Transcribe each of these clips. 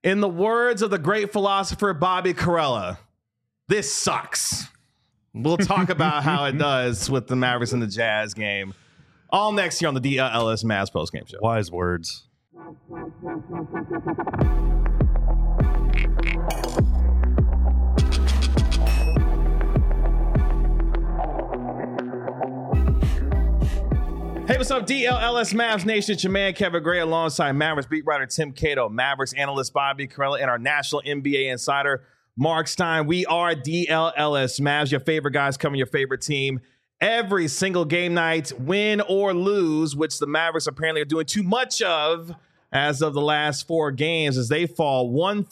In the words of the great philosopher Bobby Karalla, this sucks. We'll talk about how it does with the Mavericks and the Jazz game. All next year on the DLS Mavs postgame show. Wise words. Hey, what's up, DLS Mavs Nation? It's your man, Kevin Gray, alongside Mavericks beat writer Tim Cato, Mavericks analyst Bobby Karalla, and our national NBA insider, Mark Stein. We are DLS Mavs, your favorite guys covering your favorite team every single game night, win or lose, which the Mavericks apparently are doing too much of as of the last 4 games as they fall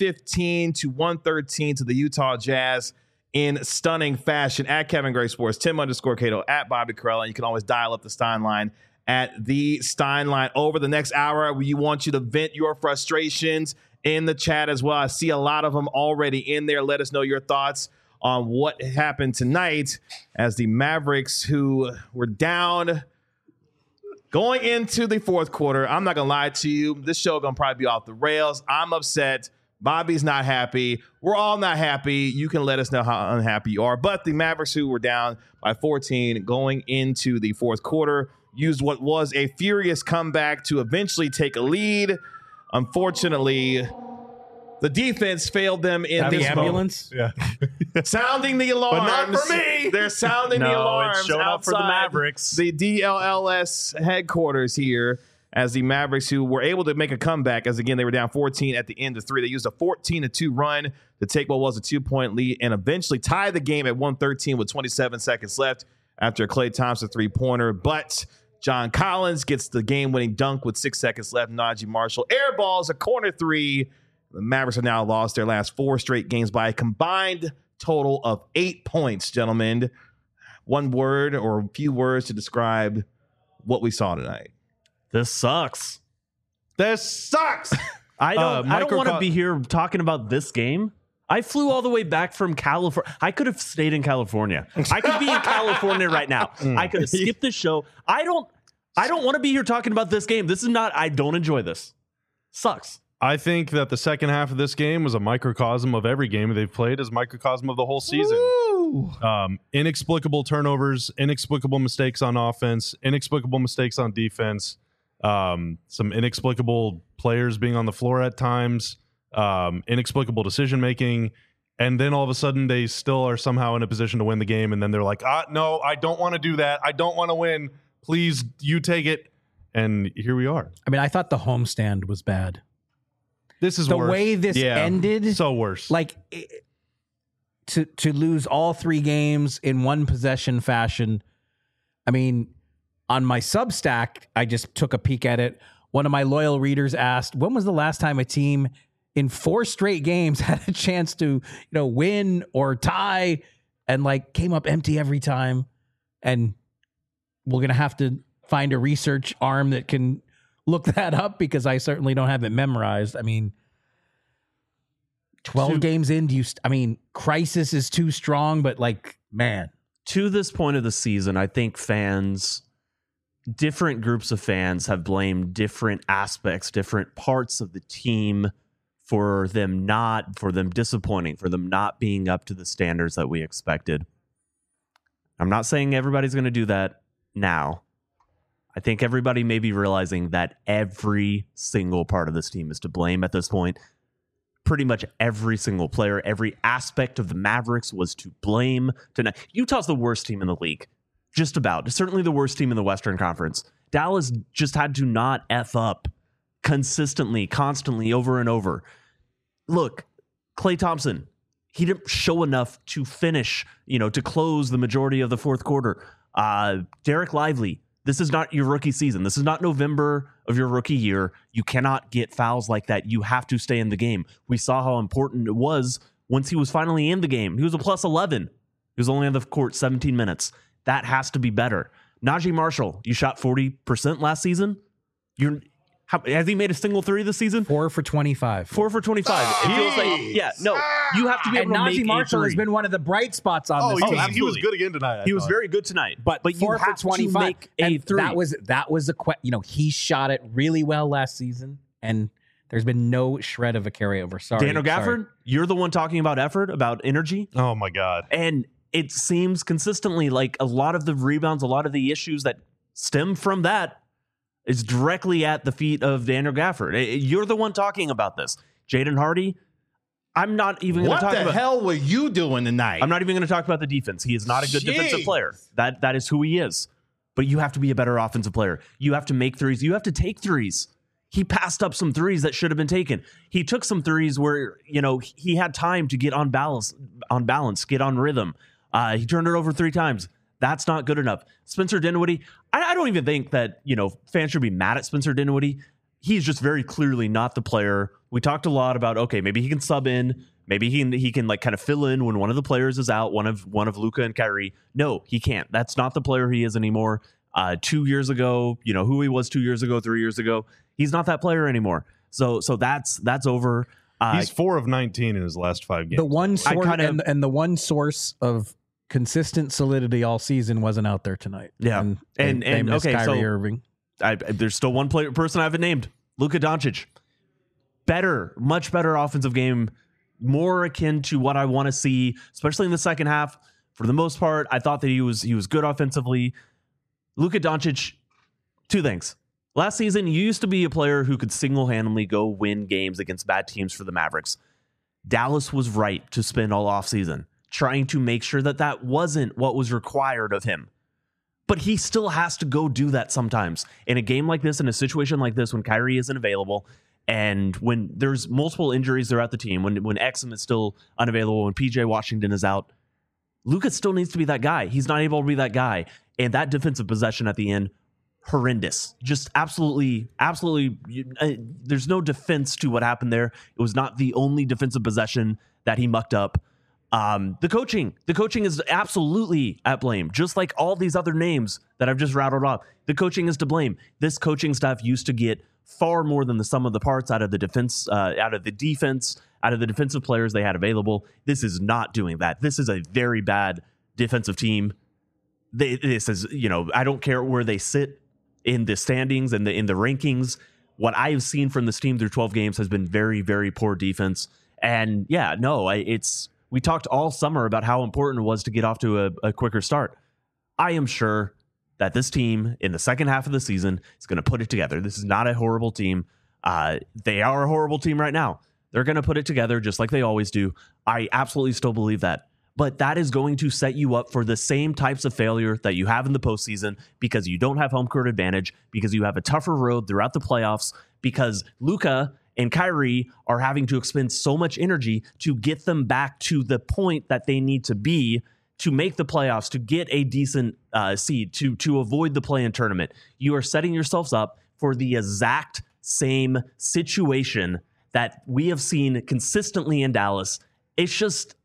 115-113 to the Utah Jazz in stunning fashion. At Kevin Gray Sports, Tim_Cato, at Bobby Karalla. And you can always dial up the Stein line at the Stein line. Over the next hour, we want you to vent your frustrations in the chat as well. I see a lot of them already in there. Let us know your thoughts on what happened tonight as the Mavericks, who were down going into the fourth quarter. I'm not going to lie to you. This show going to probably be off the rails. I'm upset. Bobby's not happy. We're all not happy. You can let us know how unhappy you are. But the Mavericks, who were down by 14 going into the fourth quarter, used what was a furious comeback to eventually take a lead. Unfortunately, the defense failed them in this ambulance. moment. Yeah. Sounding the alarms. But not for me. They're sounding the alarms it's showing up for the Mavericks. the DLLS headquarters here, as the Mavericks, who were able to make a comeback, as again, they were down 14 at the end of 3. They used a 14-2 run to take what was a 2-point lead and eventually tie the game at 113 with 27 seconds left after a Klay Thompson 3-pointer. But John Collins gets the game-winning dunk with 6 seconds left. Najee Marshall airballs a corner 3. The Mavericks have now lost their last 4 straight games by a combined total of 8 points, gentlemen. One word or a few words to describe what we saw tonight. This sucks. This sucks. I don't want to be here talking about this game. I flew all the way back from California. I could have stayed in California. I could be in California right now. I could have skipped this show. I don't want to be here talking about this game. This is not, I don't enjoy this. Sucks. I think that the second half of this game was a microcosm of every game they've played, as microcosm of the whole season. Inexplicable turnovers, inexplicable mistakes on offense, inexplicable mistakes on defense. Some inexplicable players being on the floor at times, inexplicable decision making, and then all of a sudden they still are somehow in a position to win the game, and then they're like, no, I don't want to do that. I don't want to win. Please, you take it. And here we are. I mean, I thought the homestand was bad. This is the worse. way this ended. So worse. Like to lose all 3 games in one possession fashion. I mean, on my Substack, I just took a peek at it. One of my loyal readers asked, when was the last time a team in 4 straight games had a chance to, win or tie and came up empty every time? And we're going to have to find a research arm that can look that up, because I certainly don't have it memorized. I mean, 12 games in, crisis is too strong, but man. To this point of the season, I think different groups of fans have blamed different aspects, different parts of the team for them disappointing, for them not being up to the standards that we expected. I'm not saying everybody's going to do that now. I think everybody may be realizing that every single part of this team is to blame at this point. Pretty much every single player, every aspect of the Mavericks was to blame tonight. Utah's the worst team in the league. Just about. Certainly the worst team in the Western Conference. Dallas just had to not F up consistently, constantly, over and over. Look, Klay Thompson, he didn't show enough to finish, to close the majority of the fourth quarter. Derek Lively, this is not your rookie season. This is not November of your rookie year. You cannot get fouls like that. You have to stay in the game. We saw how important it was once he was finally in the game. He was a plus 11. He was only on the court 17 minutes. That has to be better. Najee Marshall, you shot 40% last season. Has he made a single 3 this season? 4 for 25. 4 for 25. It feels like, you have to be able to make Najee Marshall has been one of the bright spots on this team. He was good again tonight. He was very good tonight. But you 4 for have 25. to make a 3. That was he shot it really well last season, and There's been no shred of a carryover. Sorry, Daniel Gafford, you're the one talking about effort, about energy. Oh my God. And it seems consistently like a lot of the rebounds, a lot of the issues that stem from that is directly at the feet of Daniel Gafford. You're the one talking about this. Jaden Hardy, I'm not even going to talk about... What the hell were you doing tonight? I'm not even going to talk about the defense. He is not a good defensive player. That is who he is. But you have to be a better offensive player. You have to make threes. You have to take threes. He passed up some threes that should have been taken. He took some threes where, he had time to get on balance, get on rhythm. He turned it over 3 times. That's not good enough. Spencer Dinwiddie, I don't even think that, fans should be mad at Spencer Dinwiddie. He's just very clearly not the player. We talked a lot about, okay, maybe he can sub in. Maybe he can like kind of fill in when one of the players is out, one of Luka and Kyrie. No, he can't. That's not the player he is anymore. 2 years ago, who he was 2 years ago, 3 years ago. He's not that player anymore. So that's over. He's 4 of 19 in his last 5 games. The one source and the one source of consistent solidity all season wasn't out there tonight. Yeah, and they missed okay, Kyrie so Irving. There's still one person I haven't named. Luka Doncic. Much better offensive game, more akin to what I want to see, especially in the second half. For the most part, I thought that he was good offensively. Luka Doncic, 2 things. Last season, you used to be a player who could single-handedly go win games against bad teams for the Mavericks. Dallas was right to spend all offseason trying to make sure that wasn't what was required of him. But he still has to go do that sometimes. In a game like this, in a situation like this, when Kyrie isn't available, and when there's multiple injuries throughout the team, when Exum is still unavailable, when PJ Washington is out, Luka still needs to be that guy. He's not able to be that guy. And that defensive possession at the end, horrendous. Just absolutely. There's no defense to what happened there. It was not the only defensive possession that he mucked up. The coaching is absolutely at blame, just like all these other names that I've just rattled off. The coaching is to blame. This coaching staff used to get far more than the sum of the parts out of the defense, out of the defensive players they had available. This is not doing that. This is a very bad defensive team. This is, I don't care where they sit in the standings and in the rankings. What I have seen from this team through 12 games has been very, very poor defense. And yeah, no, we talked all summer about how important it was to get off to a quicker start. I am sure that this team in the second half of the season is going to put it together. This is not a horrible team. They are a horrible team right now. They're going to put it together just like they always do. I absolutely still believe that. But that is going to set you up for the same types of failure that you have in the postseason because you don't have home court advantage, because you have a tougher road throughout the playoffs, because Luka and Kyrie are having to expend so much energy to get them back to the point that they need to be to make the playoffs, to get a decent seed, to avoid the play-in tournament. You are setting yourselves up for the exact same situation that we have seen consistently in Dallas. It's just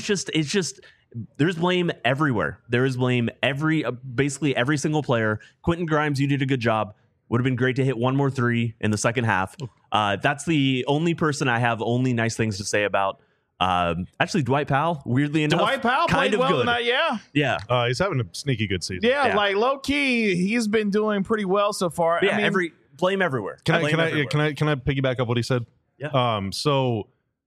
there's blame everywhere. There is blame basically every single player. Quentin Grimes, you did a good job. Would have been great to hit one more 3 in the second half. That's the only person I have only nice things to say about. Actually, Dwight Powell, weirdly enough, Dwight Powell kind played of well good. tonight, yeah. He's having a sneaky good season. Yeah, like low key, he's been doing pretty well so far. Yeah, I mean, blame everywhere. Can I piggyback up what he said? Yeah. So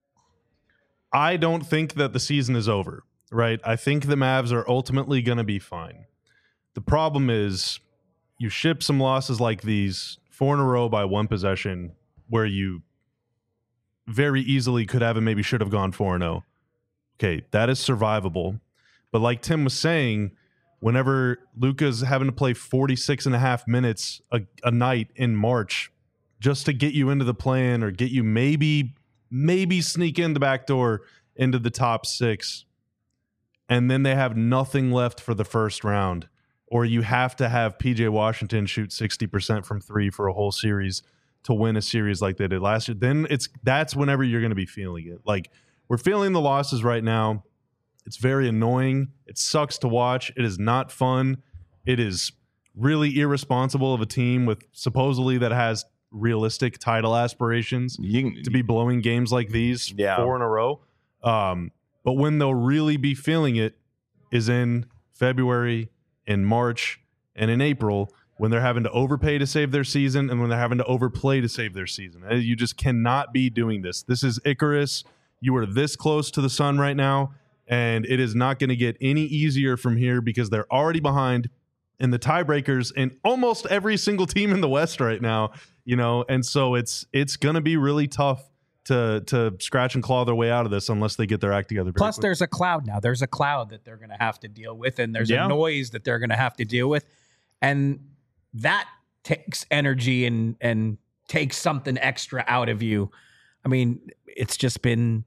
I don't think that the season is over, right? I think the Mavs are ultimately going to be fine. The problem is you ship some losses like these 4 in a row by 1 possession where you very easily could have and maybe should have gone 4-0. Okay, that is survivable. But like Tim was saying, whenever Luka's having to play 46 and a half minutes a night in March just to get you into the play-in or get you maybe sneak in the back door into the top 6, and then they have nothing left for the first round, or you have to have PJ Washington shoot 60% from 3 for a whole series to win a series like they did last year, then that's whenever you're going to be feeling it. Like, we're feeling the losses right now. It's very annoying. It sucks to watch. It is not fun. It is really irresponsible of a team with supposedly that has realistic title aspirations to be blowing games like these 4 in a row. But when they'll really be feeling it is in February, in March, and in April, when they're having to overpay to save their season and when they're having to overplay to save their season. You just cannot be doing this. This is Icarus. You are this close to the sun right now, and it is not going to get any easier from here because they're already behind in the tiebreakers in almost every single team in the West right now, and so it's going to be really tough to scratch and claw their way out of this unless they get their act together. Plus, there's a cloud now. There's a cloud that they're going to have to deal with, and there's a noise that they're going to have to deal with, and that takes energy and takes something extra out of you. I mean, it's just been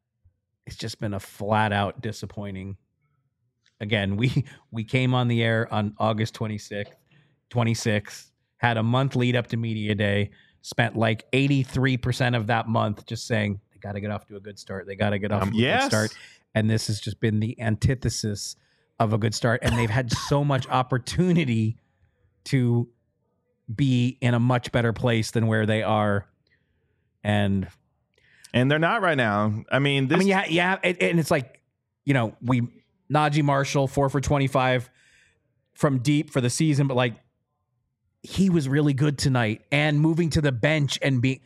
a flat out disappointing. Again, we came on the air on August 26th, had a month lead up to media day, spent like 83% of that month just saying they got to get off to a good start. They got to get off to a good start. And this has just been the antithesis of a good start. And they've had so much opportunity to be in a much better place than where they are. And they're not right now. And it's like, Najee Marshall, 4 for 25 from deep for the season, but like he was really good tonight, and moving to the bench and he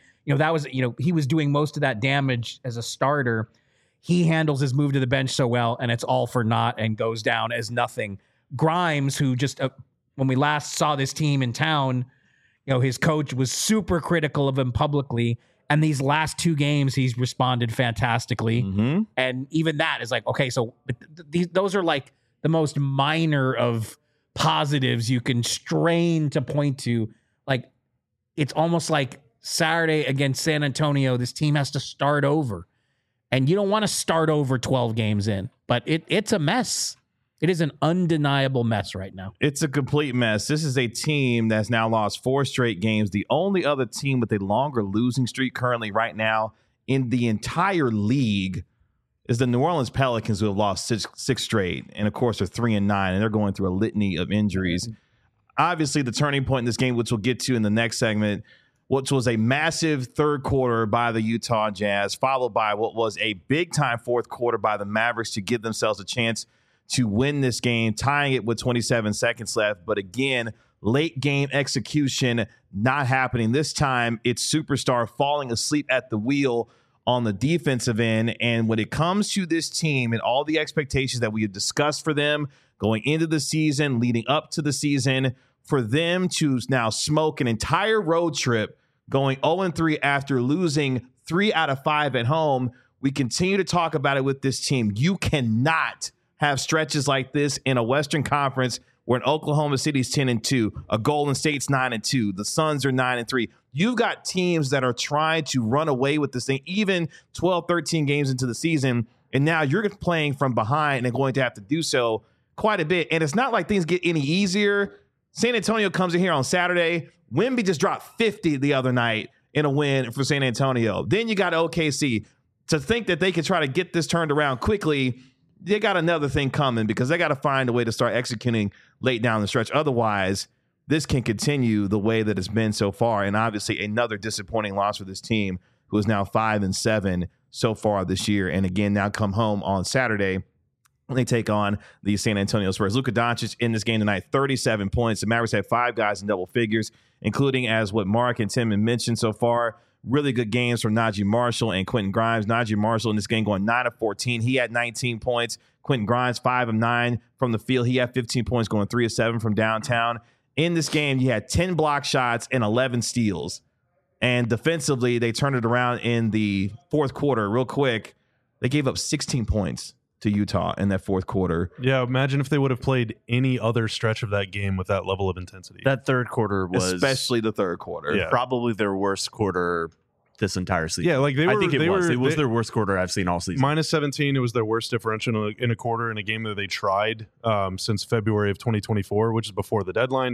was doing most of that damage as a starter. He handles his move to the bench so well, and it's all for naught and goes down as nothing. Grimes, who just when we last saw this team in town, his coach was super critical of him publicly. And these last 2 games, he's responded fantastically. Mm-hmm. And even that is like, okay, so those are like the most minor of positives you can strain to point to. Like, it's almost like Saturday against San Antonio, this team has to start over. And you don't want to start over 12 games in, but it's a mess. It is an undeniable mess right now. It's a complete mess. This is a team that's now lost 4 straight games. The only other team with a longer losing streak currently right now in the entire league is the New Orleans Pelicans, who have lost six straight. And, of course, they're 3-9, and they're going through a litany of injuries. Obviously, the turning point in this game, which we'll get to in the next segment, which was a massive third quarter by the Utah Jazz, followed by what was a big-time fourth quarter by the Mavericks to give themselves a chance to win this game, tying it with 27 seconds left. But again, late game execution not happening. This time, it's superstar falling asleep at the wheel on the defensive end. And when it comes to this team and all the expectations that we have discussed for them going into the season, leading up to the season, for them to now smoke an entire road trip going 0-3 after losing 3 out of 5 at home, we continue to talk about it with this team. You cannot have stretches like this in a Western Conference where an Oklahoma City's 10-2, a Golden State's 9-2, the Suns are 9-3. You've got teams that are trying to run away with this thing, even 12, 13 games into the season, and now you're playing from behind and going to have to do so quite a bit. And it's not like things get any easier. San Antonio comes in here on Saturday. Wemby just dropped 50 the other night in a win for San Antonio. Then you got OKC. To think that they could try to get this turned around quickly, they got another thing coming because they got to find a way to start executing late down the stretch. Otherwise, this can continue the way that it's been so far. And obviously another disappointing loss for this team, who is now 5-7 so far this year. And again, now come home on Saturday. They take on the San Antonio Spurs. Luka Doncic in this game tonight, 37 points. The Mavericks had 5 guys in double figures, including, as what Mark and Tim had mentioned so far, really good games from Najee Marshall and Quentin Grimes. Najee Marshall in this game going 9 of 14. He had 19 points. Quentin Grimes, 5 of 9 from the field. He had 15 points going 3 of 7 from downtown. In this game, you had 10 block shots and 11 steals. And defensively, they turned it around in the fourth quarter real quick. They gave up 16 points to Utah in that fourth quarter. Yeah, imagine if they would have played any other stretch of that game with that level of intensity. That third quarter was especially the third quarter. Probably their worst quarter this entire season. Yeah, like I think it was their worst quarter I've seen all season. Minus 17, it was their worst differential in a quarter in a game that they tried since February of 2024, which is before the deadline.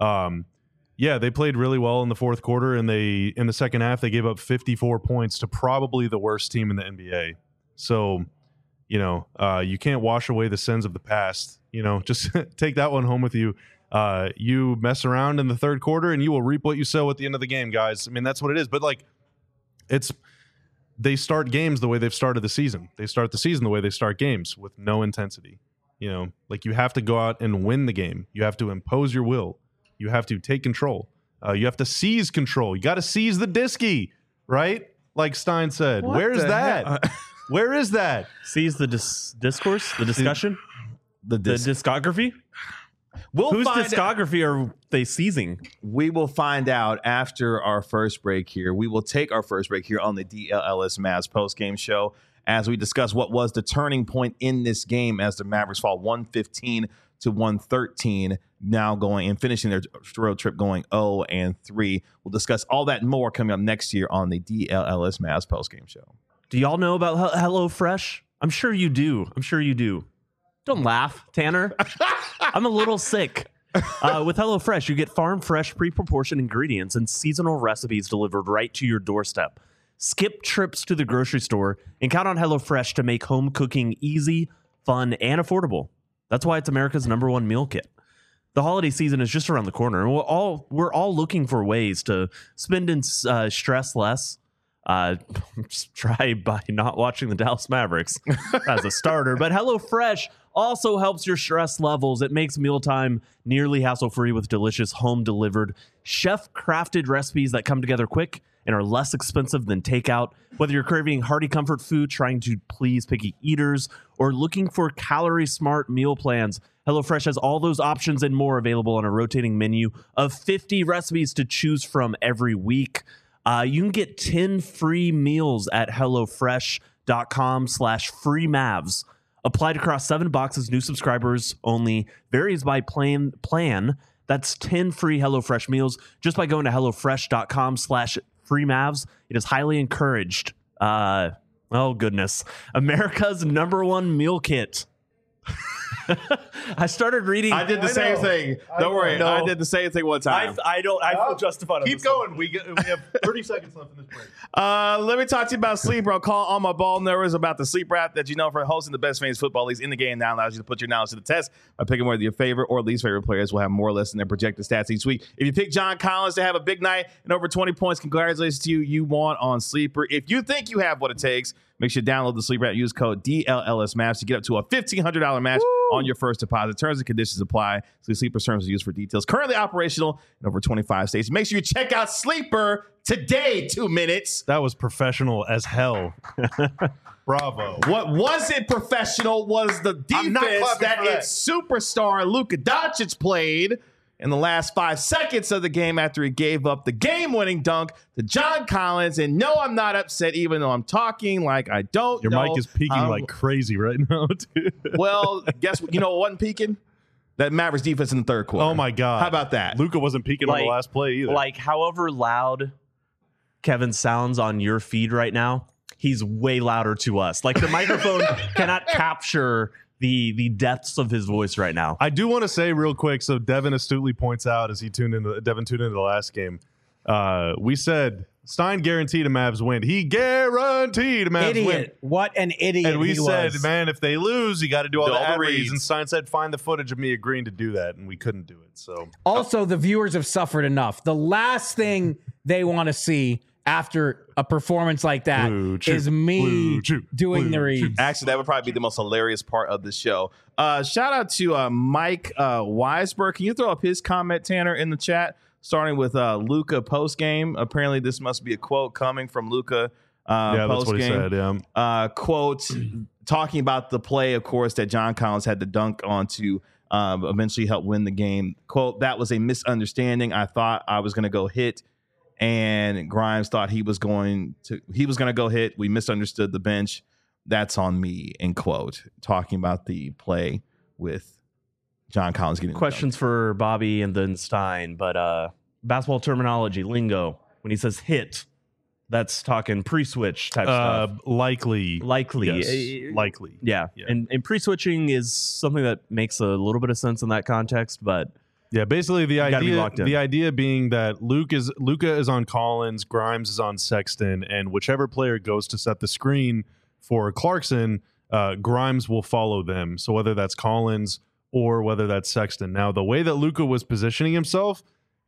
They played really well in the fourth quarter, and in the second half they gave up 54 points to probably the worst team in the NBA. So, you can't wash away the sins of the past. Just take that one home with you. You mess around in the third quarter and you will reap what you sow at the end of the game, guys. I mean, that's what it is. But they start games the way they've started the season. They start the season the way they start games, with no intensity. You have to go out and win the game. You have to impose your will. You have to take control. You have to seize control. You got to seize the disky, right? Like Stein said. Where's that? Where is that? Seize the discourse, the discussion, The discography. Whose discography are they seizing? We will find out after our first break here. We will take our first break here on the DLLS Mavs post-game show as we discuss what was the turning point in this game as the Mavericks fall 115 to 113, now going and finishing their road trip going 0-3. We'll discuss all that and more coming up next year on the DLLS Mavs post-game show. Do y'all know about HelloFresh? I'm sure you do. Don't laugh, Tanner. I'm a little sick. With HelloFresh, you get farm fresh, pre-proportioned ingredients and seasonal recipes delivered right to your doorstep. Skip trips to the grocery store and count on HelloFresh to make home cooking easy, fun, and affordable. That's why it's America's #1 meal kit. The holiday season is just around the corner, and we're all looking for ways to spend and stress less. Just try by not watching the Dallas Mavericks as a starter. But HelloFresh also helps your stress levels. It makes mealtime nearly hassle-free with delicious home-delivered, chef-crafted recipes that come together quick and are less expensive than takeout. Whether you're craving hearty comfort food, trying to please picky eaters, or looking for calorie-smart meal plans, HelloFresh has all those options and more available on a rotating menu of 50 recipes to choose from every week. You can get 10 free meals at HelloFresh.com/freemavs. Applied across 7 boxes, new subscribers only, varies by plan. That's 10 free HelloFresh meals just by going to HelloFresh.com/freemavs. It is highly encouraged. Oh, goodness. America's #1 meal kit. I started reading. I did the same thing. Don't worry. I did the same thing one time. I feel justified. Keep going. We have 30 seconds left in this break. Let me talk to you about Sleeper. Call all my ball nerds about the Sleeper app that you know for hosting the best fantasy football leagues in the game. Now allows you to put your knowledge to the test by picking whether your favorite or least favorite players will have more or less than their projected stats each week. If you pick John Collins to have a big night and over 20 points, congratulations to you. You won on Sleeper. If you think you have what it takes, make sure you download the Sleeper app. Use code DLLSMAVs to get up to a $1,500 match on your first deposit. Terms and conditions apply. So Sleeper terms are used for details. Currently operational in over 25 states. Make sure you check out Sleeper today. 2 minutes. That was professional as hell. Bravo. What wasn't professional was the defense that its superstar Luka Doncic played in the last 5 seconds of the game after he gave up the game-winning dunk to John Collins. And no, I'm not upset, even though I'm talking like I don't Your know. mic is peaking like crazy right now, dude. Well, guess what? You know what wasn't peaking? That Mavericks defense in the third quarter. Oh, my God. How about that? Luka wasn't peaking on the last play either. Like, however loud Kevin sounds on your feed right now, he's way louder to us. Like, the microphone cannot capture the depths of his voice right now. I do want to say real quick, so Devin astutely points out as Devin tuned into the last game, we said Stein guaranteed a Mavs win. He guaranteed a Mavs win. What an idiot. And we he said, was. man, if they lose, you got to do all the ad reads. reads. And Stein said, find the footage of me agreeing to do that. And we couldn't do it. So Also, the viewers have suffered enough. The last thing they want to see after a performance like that is me doing the reads. Actually, that would probably be the most hilarious part of the show. Shout out to Mike Weisberg. Can you throw up his comment, Tanner, in the chat? Starting with Luka post-game. Apparently, this must be a quote coming from Luka yeah, that's what he said. Yeah. Quote, talking about the play, of course, that John Collins had to dunk on to eventually help win the game. Quote, that was a misunderstanding. I thought I was going to go hit, and Grimes thought he was going to go hit. We misunderstood the bench. That's on me, end quote. Talking about the play with John Collins getting Questions for Bobby and then Stein, but basketball terminology, lingo, when he says hit, that's talking pre-switch type stuff. Likely. Yes. Likely. Yeah. And pre-switching is something that makes a little bit of sense in that context, but yeah, basically the idea being that Luka is on Collins, Grimes is on Sexton, and whichever player goes to set the screen for Clarkson, Grimes will follow them. So whether that's Collins or whether that's Sexton. Now, the way that Luka was positioning himself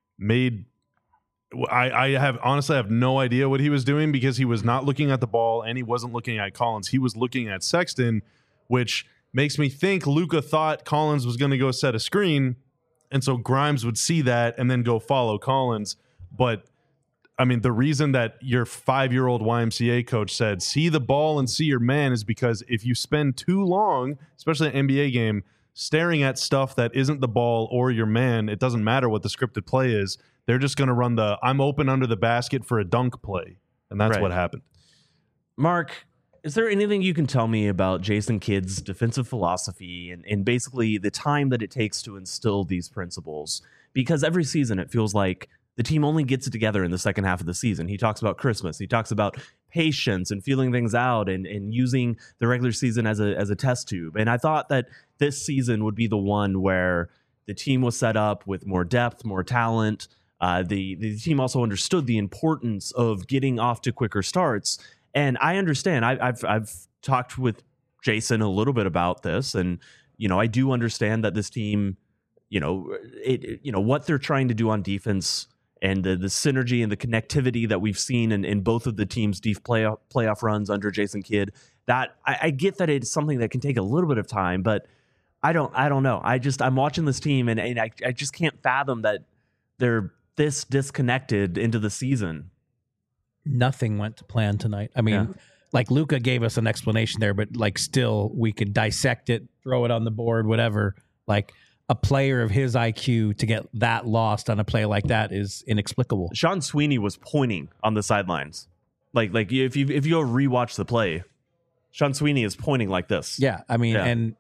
I have no idea what he was doing, because he was not looking at the ball and he wasn't looking at Collins. He was looking at Sexton, which makes me think Luka thought Collins was going to go set a screen And so Grimes would see that and then go follow Collins. But I mean, the reason that your 5-year-old YMCA coach said, see the ball and see your man, is because if you spend too long, especially an NBA game, staring at stuff that isn't the ball or your man, it doesn't matter what the scripted play is. They're just going to run the I'm open under the basket for a dunk play. And that's what happened. Mark, is there anything you can tell me about Jason Kidd's defensive philosophy and basically the time that it takes to instill these principles? Because every season it feels like the team only gets it together in the second half of the season. He talks about Christmas. He talks about patience and feeling things out and using the regular season as a test tube. And I thought that this season would be the one where the team was set up with more depth, more talent. The team also understood the importance of getting off to quicker starts. And I understand. I've talked with Jason a little bit about this, and I do understand that this team, what they're trying to do on defense and the synergy and the connectivity that we've seen in both of the teams' deep playoff runs under Jason Kidd. That I get that it's something that can take a little bit of time, but I don't know. I'm watching this team and I just can't fathom that they're this disconnected into the season. Nothing went to plan tonight. I mean, like Luka gave us an explanation there, but like still we could dissect it, throw it on the board, whatever. Like a player of his IQ to get that lost on a play like that is inexplicable. Sean Sweeney was pointing on the sidelines. Like if you go rewatch the play, Sean Sweeney is pointing like this. Yeah, I mean, and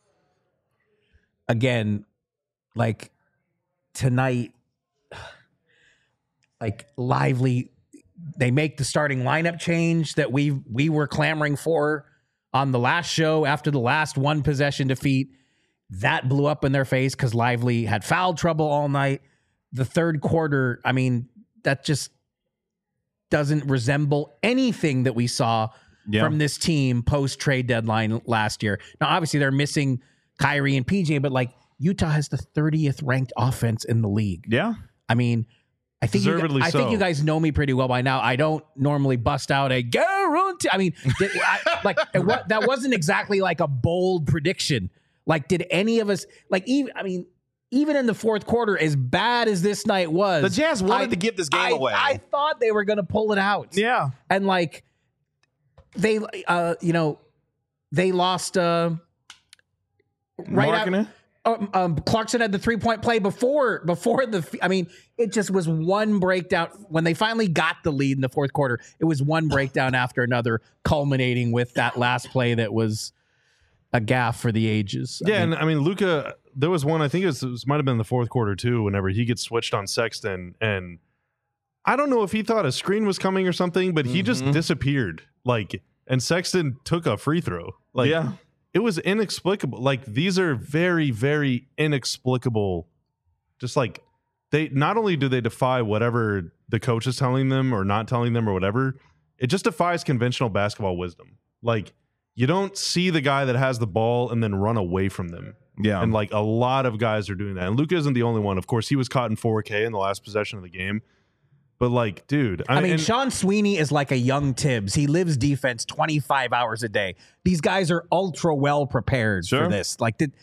again, like tonight, like Lively, they make the starting lineup change that we were clamoring for on the last show after the last one possession defeat. That blew up in their face because Lively had foul trouble all night. The third quarter, I mean, that just doesn't resemble anything that we saw from this team post-trade deadline last year. Now, obviously, they're missing Kyrie and PJ, but like Utah has the 30th ranked offense in the league. Yeah. I mean, I think you guys know me pretty well by now. I don't normally bust out a guarantee. I mean, that wasn't exactly like a bold prediction. Like, did any of us even in the fourth quarter, as bad as this night was, the Jazz wanted to give this game away. I thought they were going to pull it out. Yeah, and like they lost right out. Clarkson had the 3-point play before the. I mean, it just was one breakdown when they finally got the lead in the fourth quarter. It was one breakdown after another, culminating with that last play that was a gaffe for the ages. And I mean, Luka, there was one, I think it might have been the fourth quarter too, whenever he gets switched on Sexton. And I don't know if he thought a screen was coming or something, but he just disappeared. And Sexton took a free throw. It was inexplicable. Like, these are very, very inexplicable. Just like, they not only do they defy whatever the coach is telling them or not telling them or whatever, it just defies conventional basketball wisdom. Like, you don't see the guy that has the ball and then run away from them. Yeah. And like a lot of guys are doing that. And Luka isn't the only one. Of course, he was caught in 4K in the last possession of the game. But like, dude, I mean, Sean Sweeney is like a young Tibbs. He lives defense 25 hours a day. These guys are ultra well prepared for this.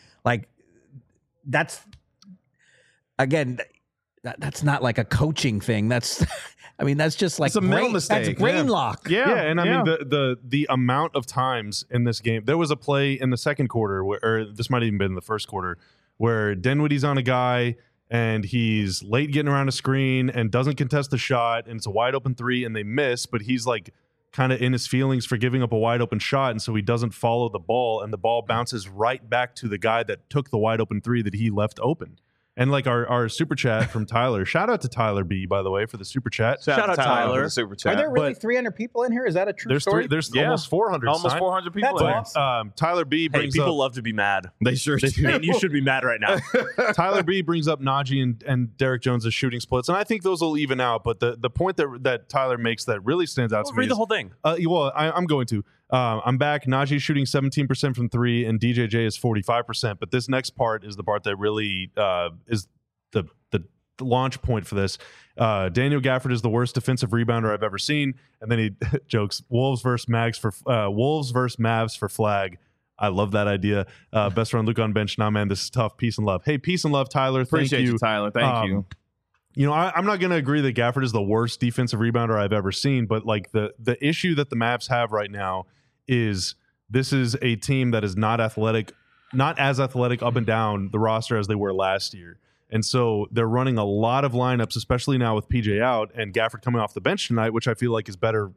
That's again, that's not like a coaching thing. That's just like it's a mental mistake. That's brain lock. Yeah. And I mean, the amount of times in this game, there was a play in the second quarter or this might have even been in the first quarter, where Dinwiddie's on a guy and he's late getting around a screen and doesn't contest the shot, and it's a wide open three and they miss, but he's like kind of in his feelings for giving up a wide open shot, and so he doesn't follow the ball, and the ball bounces right back to the guy that took the wide open three that he left open. And like our super chat from Tyler, shout out to Tyler B, by the way, for the super chat. Shout out Tyler for the super chat. Are there really 300 people in here? Is that a true story? There's almost 400. Almost 400 people. That's awesome. Tyler B brings people up, love to be mad. They sure do. And you should be mad right now. Tyler B brings up Najee and Derek Jones' shooting splits, and I think those will even out. But the point that Tyler makes that really stands out to me read the whole thing. I'm going to. I'm back. Najee shooting 17% from three, and DJJ is 45%. But this next part is the part that really is the launch point for this. Daniel Gafford is the worst defensive rebounder I've ever seen, and then he jokes Wolves versus Mavs for flag. I love that idea. Best friend Luke on bench. Nah, man, this is tough. Peace and love. Hey, peace and love, Tyler. Appreciate Thank you, Tyler. Thank you. You know, I'm not going to agree that Gafford is the worst defensive rebounder I've ever seen, but like the issue that the Mavs have right now is this is a team that is not as athletic up and down the roster as they were last year. And so they're running a lot of lineups, especially now with PJ out and Gafford coming off the bench tonight, which I feel like is better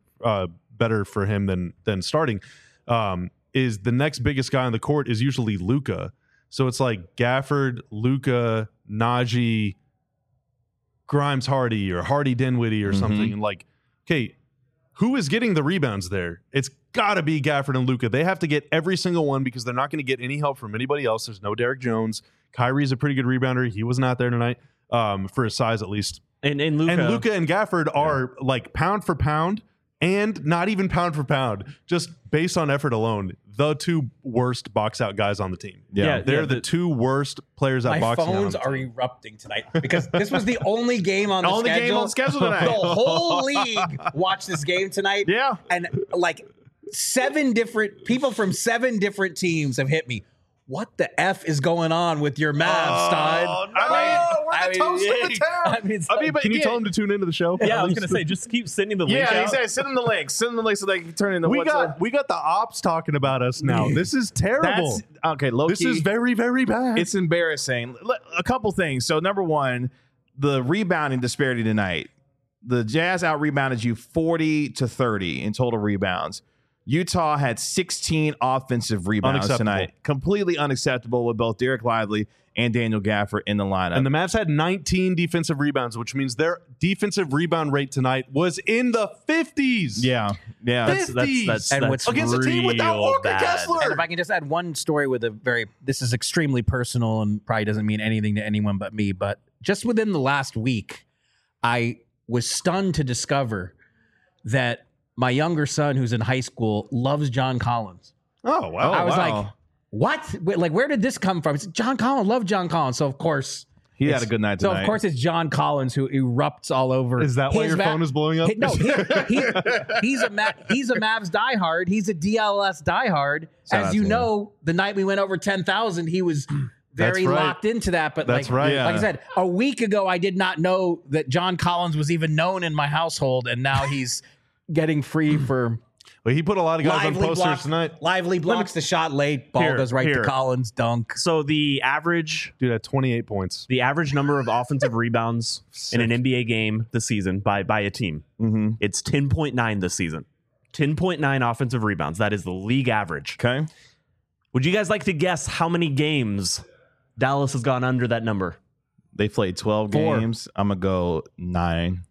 for him than starting. Is the next biggest guy on the court is usually Luka. So it's like Gafford, Luka, Najee, Grimes Hardy or Hardy Dinwiddie or something. And like, okay, who is getting the rebounds there? It's got to be Gafford and Luka. They have to get every single one because they're not going to get any help from anybody else. There's no Derek Jones. Kyrie's a pretty good rebounder. He was not there tonight for his size at least. And Luka and Gafford are like pound for pound and not even pound for pound, just based on effort alone, the two worst box out guys on the team. They're the two worst players at boxing out. My phones are erupting tonight because this was the only game on the schedule tonight. The whole league watched this game tonight. Yeah. And like 7 different people from 7 different teams have hit me. What the F is going on with your Mavs, Stein? We're the toast of the town. Can you tell him to tune into the show? Yeah, I was going to say, just keep sending the link Yeah, out. he said send them the link. Send them the link so they can turn into we got the ops talking about us now. This is terrible. Okay, low This key. is very, very bad. It's embarrassing. A couple things. So number one, the rebounding disparity tonight. The Jazz out rebounded you 40-30 in total rebounds. Utah had 16 offensive rebounds tonight. Completely unacceptable with both Derek Lively and Daniel Gafford in the lineup. And the Mavs had 19 defensive rebounds, which means their defensive rebound rate tonight was in the 50s. Yeah. That's And what's against a team without Walker bad. Kessler. And if I can just add one story with this is extremely personal and probably doesn't mean anything to anyone but me, but just within the last week, I was stunned to discover that my younger son, who's in high school, loves John Collins. Oh, wow. I was like, what? Like, where did this come from? It's John Collins, love John Collins. So, of course, he had a good night tonight. So, of course, it's John Collins who erupts all over. Is that why your phone is blowing up? No, he's a Mavs diehard. He's a DLS diehard. As you know, the night we went over 10,000, he was very locked into that. But that's right. Like I said, a week ago, I did not know that John Collins was even known in my household, and now he's getting free for. Well, he put a lot of guys on posters tonight. Lively blocks the shot late. Ball goes right to Collins. Dunk. So the average, dude, at 28 points. The average number of offensive rebounds in an NBA game this season by a team, it's 10.9 this season. 10.9 offensive rebounds. That is the league average. Okay. Would you guys like to guess how many games Dallas has gone under that number? They played 12 games. I'm going to go 9.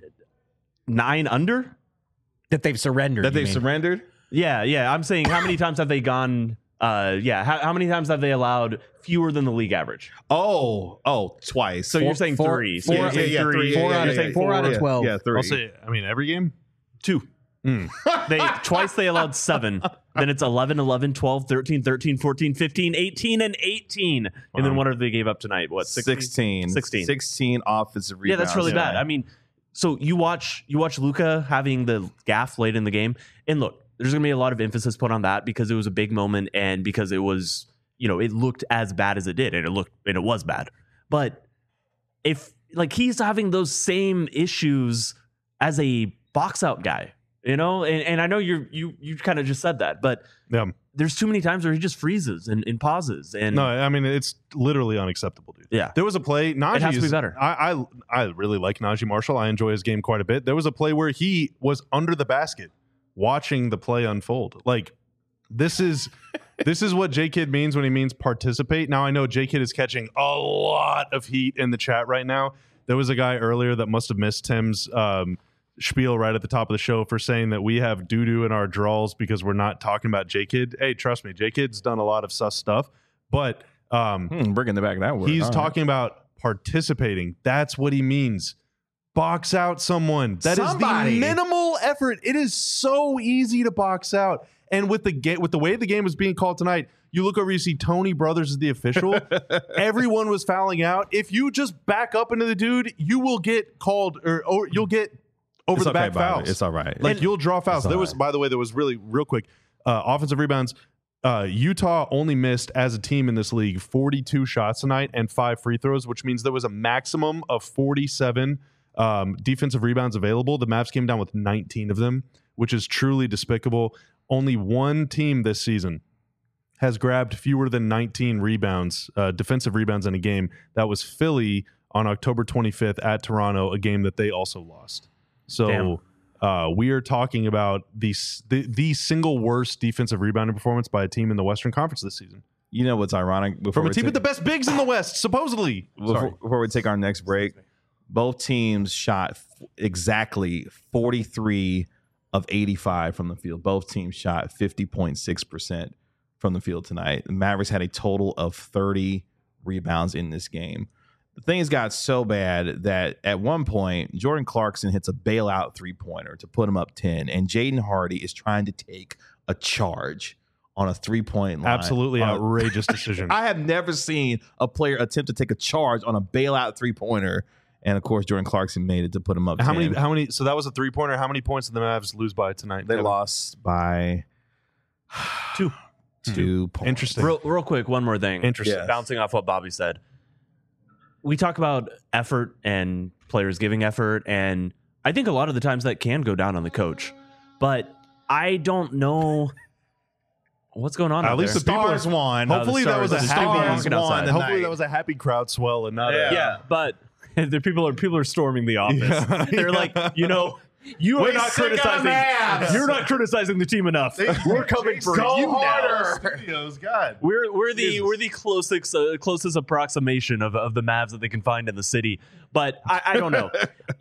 9 under? That they've surrendered. Surrendered? Yeah. I'm saying how many times have they gone? How many times have they allowed fewer than the league average? Oh, twice. So you're saying 3. Four out of 12. Yeah, 3. I'll say, every game? 2. Twice they allowed 7. Then it's 11, 11, 12, 13, 13, 14, 15, 18, and 18. And then what are they gave up tonight? What, 16 offensive rebounds. Yeah, that's really bad. I mean, so you watch Luka having the gaff late in the game, and look, there's going to be a lot of emphasis put on that because it was a big moment and because it was, it looked as bad as it did, and it was bad. But if he's having those same issues as a box out guy, and I know you kind of just said that, but there's too many times where he just freezes and pauses. And no, I mean, it's literally unacceptable, dude. Yeah. There was a play. Najee it has to be better. I really like Najee Marshall. I enjoy his game quite a bit. There was a play where he was under the basket watching the play unfold. Like, this is what J-Kid means when he means participate. Now, I know J-Kid is catching a lot of heat in the chat right now. There was a guy earlier that must have missed Tim's spiel right at the top of the show for saying that we have doo-doo in our draws because we're not talking about J-Kid. Hey, trust me, J-Kid's done a lot of sus stuff, but bringing the back that word. He's talking about participating. That's what he means. Box out someone. That is the minimal effort. It is so easy to box out. And with the way the game was being called tonight, you look over, you see Tony Brothers is the official. Everyone was fouling out. If you just back up into the dude, you will get called or you'll get over the back fouls. It's all right. You'll draw fouls. By the way, there was really real quick offensive rebounds. Utah only missed as a team in this league 42 shots tonight and 5 free throws, which means there was a maximum of 47 defensive rebounds available. The Mavs came down with 19 of them, which is truly despicable. Only one team this season has grabbed fewer than 19 rebounds, defensive rebounds in a game. That was Philly on October 25th at Toronto, a game that they also lost. So we are talking about the single worst defensive rebounding performance by a team in the Western Conference this season. You know what's ironic? From a team with the best bigs in the West, supposedly. Before we take our next break, both teams shot exactly 43 of 85 from the field. Both teams shot 50.6% from the field tonight. The Mavericks had a total of 30 rebounds in this game. The things got so bad that at one point, Jordan Clarkson hits a bailout three-pointer to put him up 10, and Jaden Hardy is trying to take a charge on a three-point line. Absolutely outrageous decision. I have never seen a player attempt to take a charge on a bailout three-pointer, and of course, Jordan Clarkson made it to put him up 10. How many? So that was a three-pointer. How many points did the Mavs lose by tonight? They lost by 2. 2 points. Interesting. Real quick, one more thing. Interesting. Yes. Bouncing off what Bobby said. We talk about effort and players giving effort, and I think a lot of the times that can go down on the coach. But I don't know what's going on. At least the people Stars won. Hopefully that was a Stars happy. won. Hopefully that was a happy crowd swell and not. Yeah, but the people are storming the office. Yeah. They're like, you are not criticizing. You're not criticizing the team enough. We're coming for you now. Studios, God. We're the closest approximation of the Mavs that they can find in the city. But I don't know.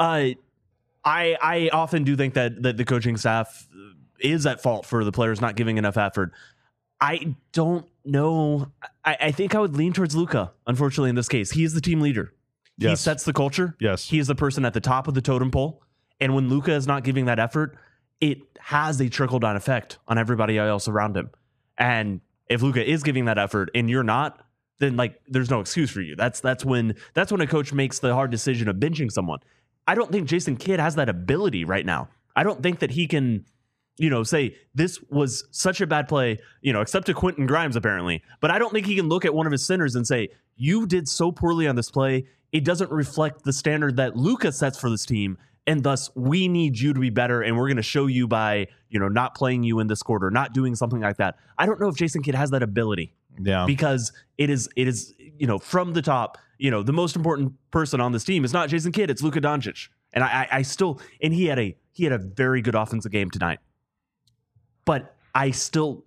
I often do think that the coaching staff is at fault for the players not giving enough effort. I don't know. I think I would lean towards Luka, unfortunately, in this case. He is the team leader. He Yes. sets the culture. Yes. He is the person at the top of the totem pole. And when Luka is not giving that effort, it has a trickle-down effect on everybody else around him. And if Luka is giving that effort and you're not, then there's no excuse for you. That's when a coach makes the hard decision of benching someone. I don't think Jason Kidd has that ability right now. I don't think that he can, say this was such a bad play, except to Quentin Grimes apparently. But I don't think he can look at one of his centers and say, you did so poorly on this play. It doesn't reflect the standard that Luka sets for this team. And thus, we need you to be better, and we're going to show you by, not playing you in this quarter, not doing something like that. I don't know if Jason Kidd has that ability. Yeah. Because it is, from the top, the most important person on this team is not Jason Kidd, it's Luka Doncic. And I still, and he had a very good offensive game tonight. But I think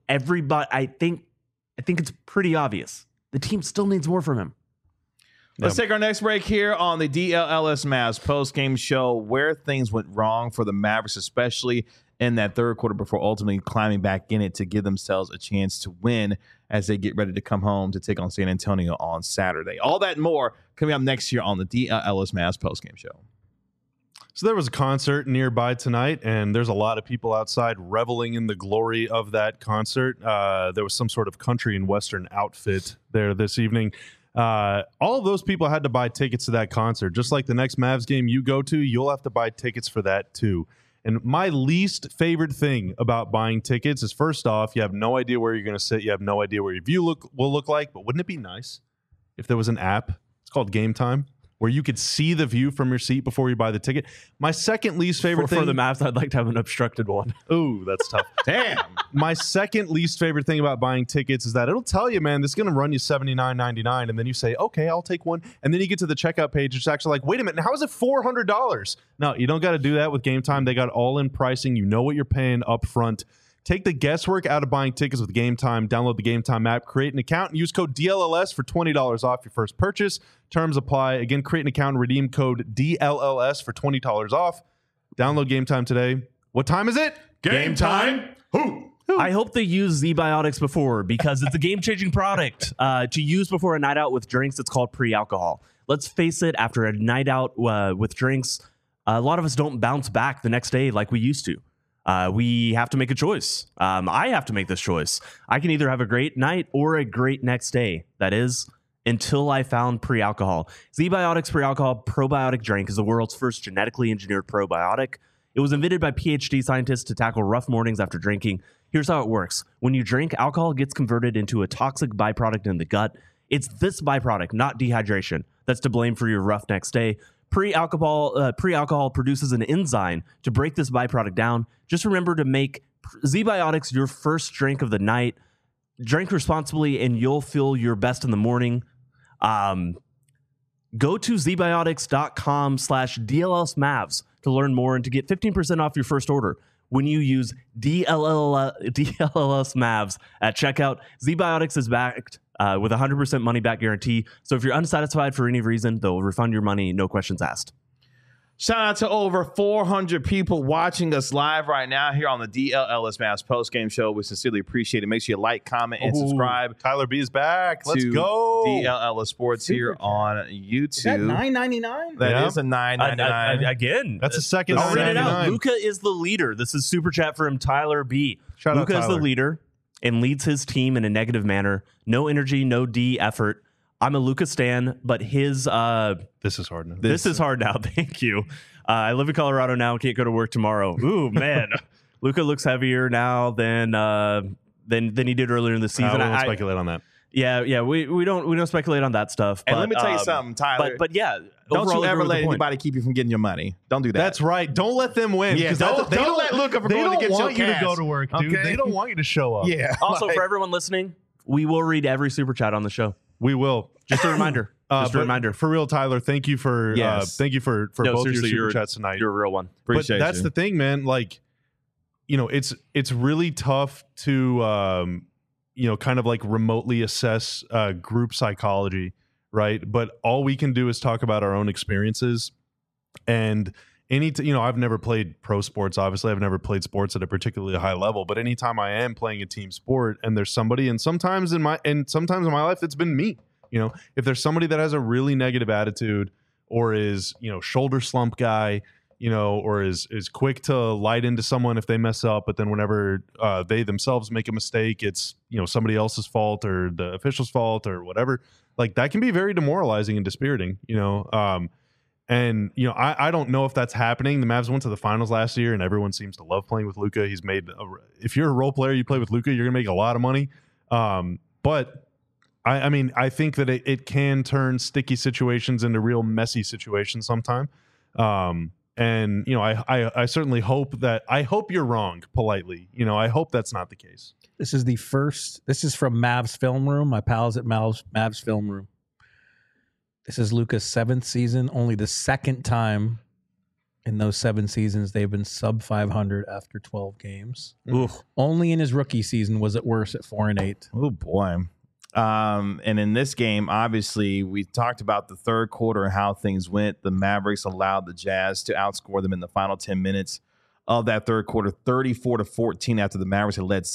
it's pretty obvious. The team still needs more from him. Let's take our next break here on the DLLS Mavs post-game show, where things went wrong for the Mavericks, especially in that third quarter before ultimately climbing back in it to give themselves a chance to win as they get ready to come home to take on San Antonio on Saturday. All that and more coming up next year on the DLLS Mavs post-game show. So there was a concert nearby tonight, and there's a lot of people outside reveling in the glory of that concert. There was some sort of country and western outfit there this evening. All of those people had to buy tickets to that concert. Just like the next Mavs game you go to, you'll have to buy tickets for that too. And my least favorite thing about buying tickets is, first off, you have no idea where you're going to sit. You have no idea where your view will look like. But wouldn't it be nice if there was an app? It's called Game Time, where you could see the view from your seat before you buy the ticket. My second least favorite thing for the Mavs, I'd like to have an obstructed one. Ooh, that's tough. Damn. My second least favorite thing about buying tickets is that it'll tell you, man, this is going to run you $79.99, and then you say, okay, I'll take one, and then you get to the checkout page, it's actually like, wait a minute, how is it $400? No, you don't got to do that with Game Time. They got all-in pricing. You know what you're paying up front. Take the guesswork out of buying tickets with Game Time. Download the Game Time app, create an account, and use code DLLS for $20 off your first purchase. Terms apply. Again, create an account and redeem code DLLS for $20 off. Download Game Time today. What time is it? Game time. Who? I hope they use Z-Biotics before, because it's a game-changing product to use before a night out with drinks. It's called pre-alcohol. Let's face it, after a night out with drinks, a lot of us don't bounce back the next day like we used to. We have to make a choice. I have to make this choice. I can either have a great night or a great next day. That is, until I found pre-alcohol. Z-Biotics pre-alcohol probiotic drink is the world's first genetically engineered probiotic. It was invented by PhD scientists to tackle rough mornings after drinking. Here's how it works. When you drink, alcohol gets converted into a toxic byproduct in the gut. It's this byproduct, not dehydration, that's to blame for your rough next day. Pre-alcohol produces an enzyme to break this byproduct down. Just remember to make ZBiotics your first drink of the night. Drink responsibly and you'll feel your best in the morning. Go to zbiotics.com/DLSMavs to learn more and to get 15% off your first order when you use DLS Mavs at checkout. ZBiotics is backed with a 100% money back guarantee. So if you're unsatisfied for any reason, they'll refund your money, no questions asked. Shout out to over 400 people watching us live right now here on the DLS Mavs postgame show. We sincerely appreciate it. Make sure you like, comment, and subscribe. Tyler B is back. Let's to go. DLS Sports here on YouTube. Is that $9.99? That is a $9.99. Again, That's the second I'll read it out. $9.99. Luka is the leader. This is super chat from Tyler B. Shout out Luka is the Tyler. leader and leads his team in a negative manner. No energy, no D effort. I'm a Luka stan, but his This is hard now. this is hard now. Thank you. I live in Colorado now. Can't go to work tomorrow. Ooh, man. Luka looks heavier now than he did earlier in the season. I won't speculate on that. Yeah. We don't speculate on that stuff. And but, let me tell you something, Tyler. But yeah, don't overall you ever agree with let the point. anybody keep you from getting your money. Don't do that. That's right. Don't let them win. Yeah, 'cause don't let Luka from they going to don't get your want you to cash. go to work, dude. Okay? They don't want you to show up. Yeah. Also, like- for everyone listening, we will read every super chat on the show. We will. Just a reminder. Just a But reminder. For real, Tyler, thank you for Yes. for No, both your seriously, super you're- chats tonight. You're a real one. Appreciate But that's you. the thing, man. Like, it's really tough to kind of like remotely assess group psychology, right? But all we can do is talk about our own experiences. And I've never played pro sports. Obviously, I've never played sports at a particularly high level. But anytime I am playing a team sport, and there's somebody, and sometimes in my life, it's been me. If there's somebody that has a really negative attitude, or is shoulder slump guy, or is quick to light into someone if they mess up, but then whenever they themselves make a mistake, it's somebody else's fault or the official's fault or whatever. Like, that can be very demoralizing and dispiriting. I don't know if that's happening. The Mavs went to the finals last year, and everyone seems to love playing with Luka. If you're a role player, you play with Luka, you're gonna make a lot of money. But I think that it can turn sticky situations into real messy situations sometime. I certainly hope you're wrong politely. I hope that's not the case. This is from Mavs Film Room, my pals at Mavs Film Room. This is Luka's 7th season, only the second time in those 7 seasons they've been sub 500 after 12 games. Oof. Only in his rookie season was it worse at 4-8. Oh boy. And in this game, obviously, we talked about the third quarter and how things went. The Mavericks allowed the Jazz to outscore them in the final 10 minutes of that third quarter, 34-14, after the Mavericks had led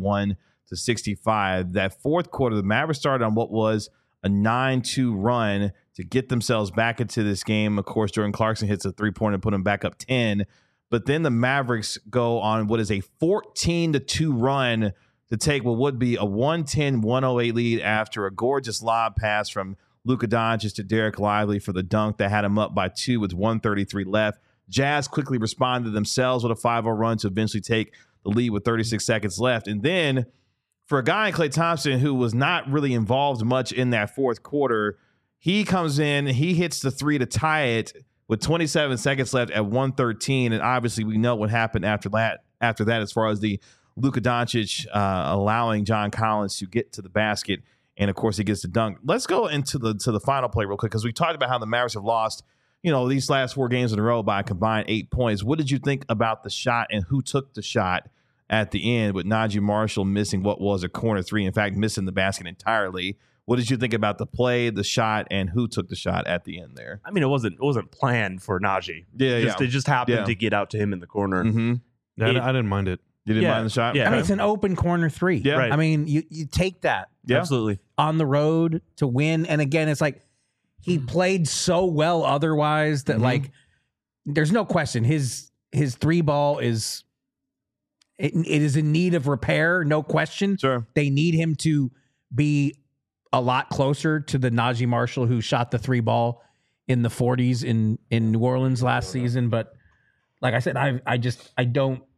71-65. That fourth quarter, the Mavericks started on what was a 9-2 run to get themselves back into this game. Of course, Jordan Clarkson hits a three-pointer and put them back up 10. But then the Mavericks go on what is a 14-2 run to take what would be a 110-108 lead after a gorgeous lob pass from Luka Doncic to Derek Lively for the dunk that had him up by 2 with 1:33 left. Jazz quickly responded themselves with a 5-0 run to eventually take the lead with 36 seconds left. And then for a guy like Klay Thompson, who was not really involved much in that fourth quarter, he comes in, he hits the three to tie it with 27 seconds left at 1:13. And obviously we know what happened after that as far as the Luka Doncic allowing John Collins to get to the basket. And, of course, he gets the dunk. Let's go into the final play real quick, because we talked about how the Mavericks have lost, these last 4 games in a row by a combined 8 points. What did you think about the shot and who took the shot at the end, with Najee Marshall missing what was a corner three, in fact, missing the basket entirely? What did you think about the play, the shot, and who took the shot at the end there? I mean, it wasn't planned for Najee. It just happened to get out to him in the corner. Mm-hmm. I didn't mind it. You didn't mind the shot? Yeah. I mean, it's an open corner 3. Yeah. Right. I mean, you take that Yeah. Absolutely. on the road to win. And again, it's like he played so well otherwise that like there's no question his 3 ball is it is in need of repair, no question. Sure. They need him to be a lot closer to the Najee Marshall who shot the 3 ball in the 40s in New Orleans last season. But like I said, I don't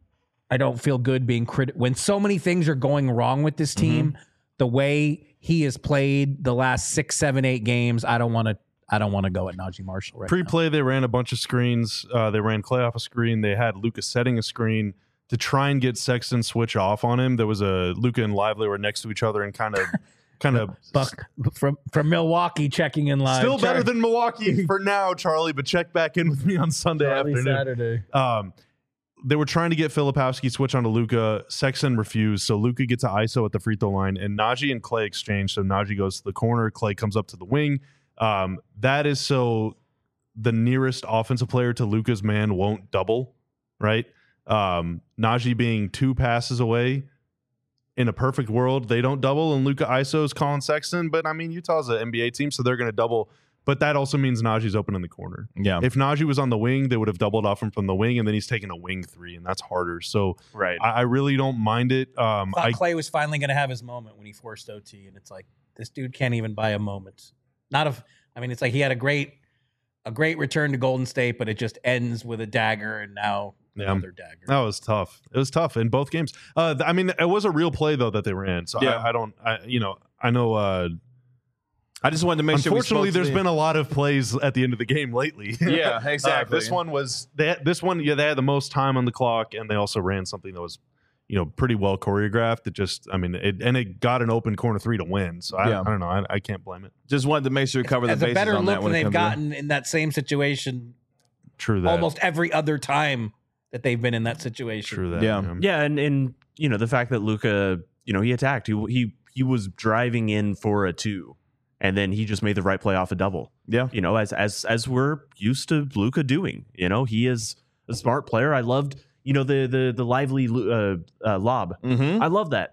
I don't feel good being when so many things are going wrong with this team. The way he has played the last 6, 7, 8 games, I don't want to go at Najee Marshall right Pre-play, they ran a bunch of screens. They ran Clay off a screen. They had Luka setting a screen to try and get Sexton switch off on him. There was a Luka and Lively were next to each other and kind of Buck from Milwaukee checking in live. Still better than Milwaukee for now, Charlie, but check back in with me on Sunday afternoon. Saturday. They were trying to get Filipowski switch onto Luka. Sexton refused, so Luka gets an ISO at the free throw line, and Najee and Clay exchange. So Najee goes to the corner, Clay comes up to the wing. That is so the nearest offensive player to Luka's man won't double, right? Najee being 2 passes away. In a perfect world, they don't double, and Luka ISOs Colin Sexton. But I mean, Utah's an NBA team, so they're going to double. But that also means Najee's open in the corner. Yeah. If Najee was on the wing, they would have doubled off him from the wing, and then he's taking a wing 3, and that's harder. So Right. I really don't mind it. Thought Clay was finally going to have his moment when he forced OT, and it's like this dude can't even buy a moment. It's like he had a great return to Golden State, but it just ends with a dagger, and now another dagger. That was tough. It was tough in both games. It was a real play though that they ran. So Yeah. I know. I just wanted to make sure. Unfortunately, there's been a lot of plays at the end of the game lately. Yeah, exactly. This one they had the most time on the clock, and they also ran something that was, pretty well choreographed. It got an open corner 3 to win. So I don't know. I can't blame it. Just wanted to make sure we cover the As bases a better on look that than when it they've comes gotten in that same situation True that. almost every other time that they've been in that situation. True that. Yeah. Yeah, and the fact that Luka, he attacked. He was driving in for a 2, and then he just made the right play off a double. Yeah. As we're used to Luka doing. He is a smart player. I loved the lively lob. Mm-hmm. I love that.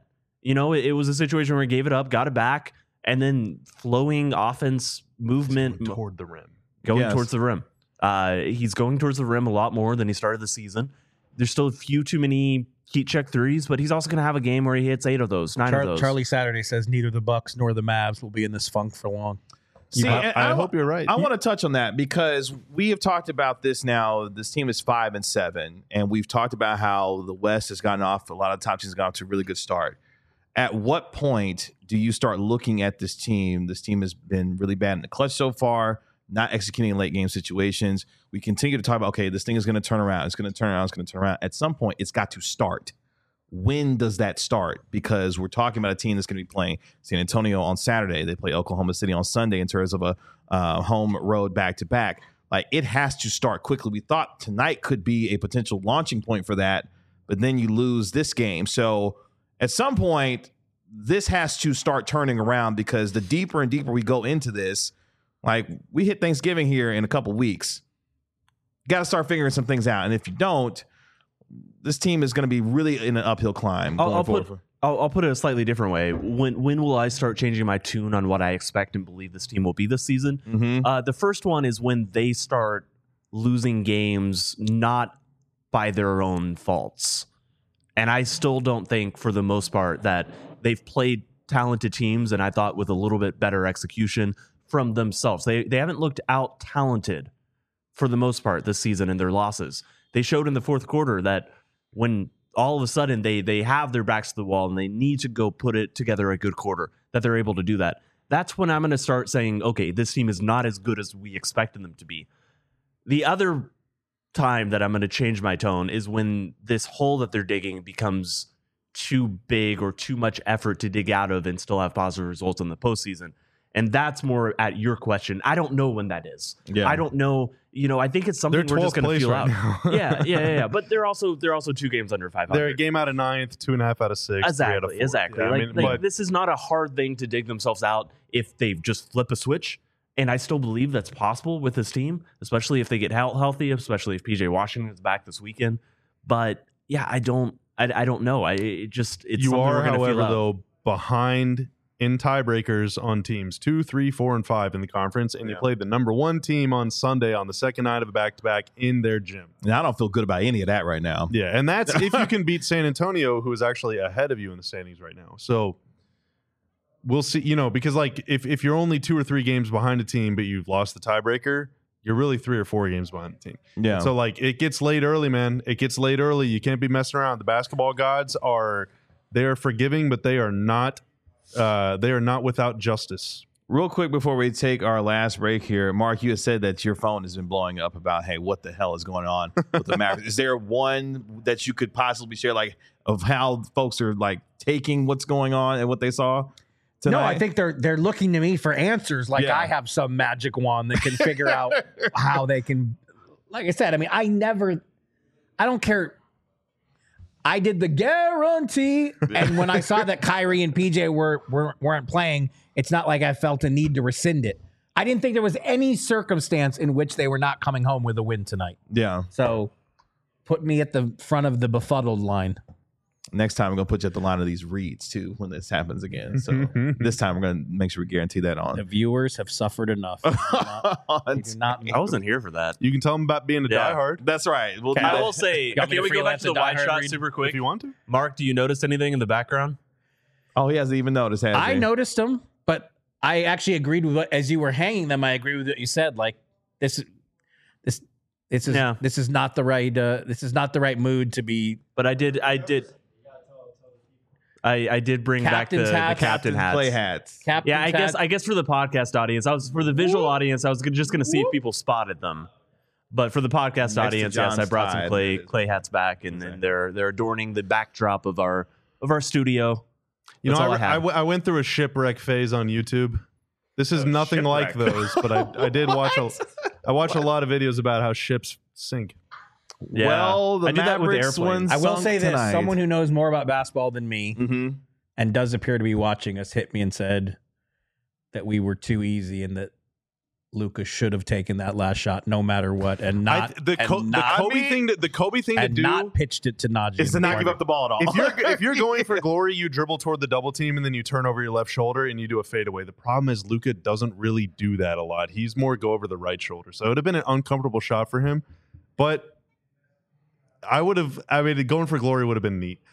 It was a situation where he gave it up, got it back, and then flowing offense movement Toward the rim. going towards the rim. He's going towards the rim a lot more than he started the season. There's still a few too many heat check threes, but he's also going to have a game where he hits 8 of those, 9 of those. Charlie Saturday says neither the Bucks nor the Mavs will be in this funk for long. See, I hope you're right. I want to touch on that because we have talked about this now. This team is 5-7, and we've talked about how the West has gotten off. A lot of top teams have gotten off to a really good start. At what point do you start looking at this team? This team has been really bad in the clutch so far, not executing in late game situations. We continue to talk about, okay, this thing is going to turn around. It's going to turn around. It's going to turn around. At some point, it's got to start. When does that start? Because we're talking about a team that's going to be playing San Antonio on Saturday. They play Oklahoma City on Sunday in terms of a home road back-to-back. Like, it has to start quickly. We thought tonight could be a potential launching point for that, but then you lose this game. So at some point, this has to start turning around because the deeper and deeper we go into this, like, we hit Thanksgiving here in a couple weeks. Got to start figuring some things out. And if you don't, this team is going to be really in an uphill climb. I'll put it a slightly different way. When will I start changing my tune on what I expect and believe this team will be this season? Mm-hmm. The first one is when they start losing games not by their own faults. And I still don't think, for the most part, that they've played talented teams, and I thought with a little bit better execution from themselves. They haven't looked out talented for the most part this season in their losses. They showed in the fourth quarter that when all of a sudden they have their backs to the wall and they need to go put it together a good quarter, that they're able to do that. That's when I'm going to start saying, okay, this team is not as good as we expected them to be. The other time that I'm going to change my tone is when this hole that they're digging becomes too big or too much effort to dig out of and still have positive results in the postseason. And that's more at your question. I don't know when that is. Yeah. I don't know. I think it's something we're just going to feel right out. now. Yeah. But they're also 2 games under 500. They're a game out of 9th, 2.5 out of 6. Exactly. 3 out of 4. Yeah, Like, this is not a hard thing to dig themselves out if they just flip a switch. And I still believe that's possible with this team, especially if they get healthy, especially if PJ Washington is back this weekend. But yeah, I don't know. It's you something are, we're gonna however, feel out. though, behind in tiebreakers on teams 2, 3, 4, and 5 in the conference, and you played the number 1 team on Sunday on the second night of a back-to-back in their gym. And I don't feel good about any of that right now. Yeah, and that's if you can beat San Antonio, who is actually ahead of you in the standings right now. So we'll see, because like if you're only 2 or 3 games behind a team, but you've lost the tiebreaker, you're really 3 or 4 games behind the team. Yeah. So like it gets late early, man. It gets late early. You can't be messing around. The basketball gods are forgiving, but they are not without justice. Real quick before we take our last break here, Mark, you had said that your phone has been blowing up about, hey, what the hell is going on with the Mavericks? Is there one that you could possibly share, like, of how folks are like taking what's going on and what they saw tonight? No, I think they're looking to me for answers. Like Yeah. I have some magic wand that can figure out how they can. Like I said, I mean, I don't care. I did the guarantee, and when I saw that Kyrie and PJ weren't playing, it's not like I felt a need to rescind it. I didn't think there was any circumstance in which they were not coming home with a win tonight. Yeah. So put me at the front of the befuddled line. Next time, we're going to put you at the line of these reads, too, when this happens again. So this time, we're going to make sure we guarantee that The on. viewers have suffered enough. We do not I wasn't here for that. You can tell them about being a Yeah. diehard That's right. We'll do I that. will say, want me can to we go back freelance to the a wide diehard shot read? super quick? if you want to. Mark, do you notice anything in the background? Oh, he hasn't even noticed, has I he? noticed them, but I actually agreed with what, as you were hanging them, I agree with what you said. Like this is Yeah. this is not the right mood to be. But I did bring back the Captain's hats. captain hats. Play hats. Captain's Yeah, hat. I guess for the podcast audience, for the visual audience, I was just going to see if people spotted them. But for the podcast to audience, yes, I John's brought some tide. clay hats back, and then they're adorning the backdrop of our studio. You That's know, all I have. I went through a shipwreck phase on YouTube. This is nothing like shipwreck. those, but I did watch I watched a lot of videos about how ships sink. Yeah. Well, the I did that with Mavericks airplanes. I will sunk say this: tonight. someone who knows more about basketball than me Mm-hmm. and does appear to be watching us hit me and said that we were too easy and that Luka should have taken that last shot no matter what, and not the Kobe thing to and do not pitched it to Najee. Is to not give up the ball at all. if you're going for glory, you dribble toward the double team and then you turn over your left shoulder and you do a fadeaway. The problem is Luka doesn't really do that a lot. He's more go over the right shoulder. So it would have been an uncomfortable shot for him. But going for glory would have been neat.